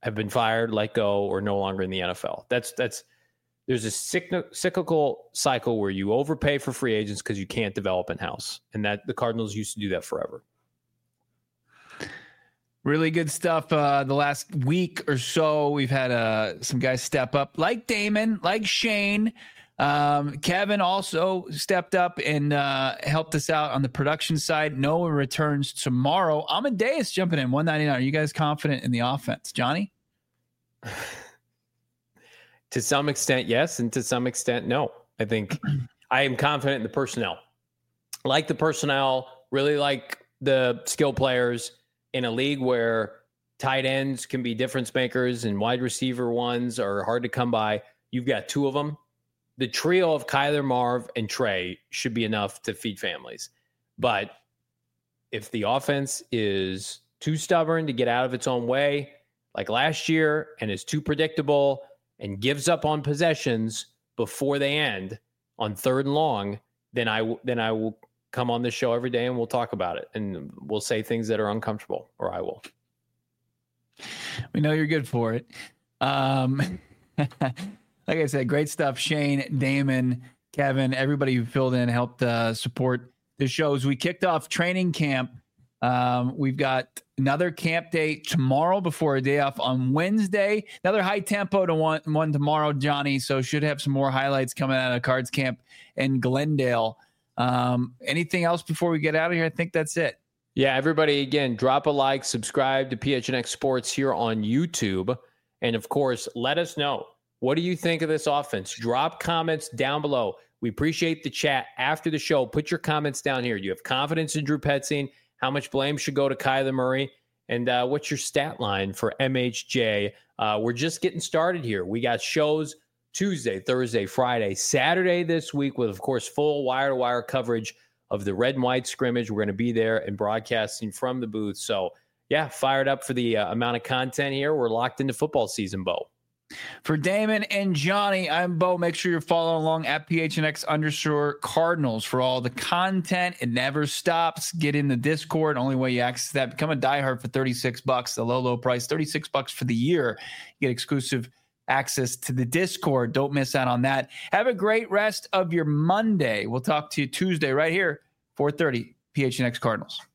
have been fired, let go, or no longer in the NFL. There's a cyclical cycle where you overpay for free agents because you can't develop in-house. And that the Cardinals used to do that forever. Really good stuff. The last week or so, we've had some guys step up, like Damon, like Shane. Kevin also stepped up and helped us out on the production side. Noah returns tomorrow. Amadeus jumping in, 199. Are you guys confident in the offense? Johnny? To some extent, yes, and to some extent, no. I think I am confident in the personnel. Like the personnel, really like the skill players in a league where tight ends can be difference makers and wide receiver ones are hard to come by. You've got two of them. The trio of Kyler, Marv, and Trey should be enough to feed families. But if the offense is too stubborn to get out of its own way, like last year, and is too predictable and gives up on possessions before they end on 3rd and long, then I will come on this show every day and we'll talk about it. And we'll say things that are uncomfortable, or I will. We know you're good for it. Like I said, great stuff. Shane, Damon, Kevin, everybody who filled in, helped support the shows. We kicked off training camp. We've got another camp day tomorrow before a day off on Wednesday. Another high tempo to one tomorrow, Johnny. So should have some more highlights coming out of Cards Camp in Glendale. Anything else before we get out of here? I think that's it. Yeah, everybody, again, drop a like, subscribe to PHNX Sports here on YouTube. And, of course, let us know. What do you think of this offense? Drop comments down below. We appreciate the chat after the show. Put your comments down here. Do you have confidence in Drew Petzing? How much blame should go to Kyler Murray? And what's your stat line for MHJ? We're just getting started here. We got shows Tuesday, Thursday, Friday, Saturday this week with, of course, full wire-to-wire coverage of the red and white scrimmage. We're going to be there and broadcasting from the booth. So, yeah, fired up for the amount of content here. We're locked into football season, Bo. For Damon and Johnny, I'm Bo. Make sure you're following along at PHNX_Cardinals for all the content. It never stops. Get in the Discord. Only way you access that. Become a diehard for $36. The low price, $36 for the year. You get exclusive access to the Discord. Don't miss out on that. Have a great rest of your Monday. We'll talk to you Tuesday right here, 4:30, PHNX Cardinals.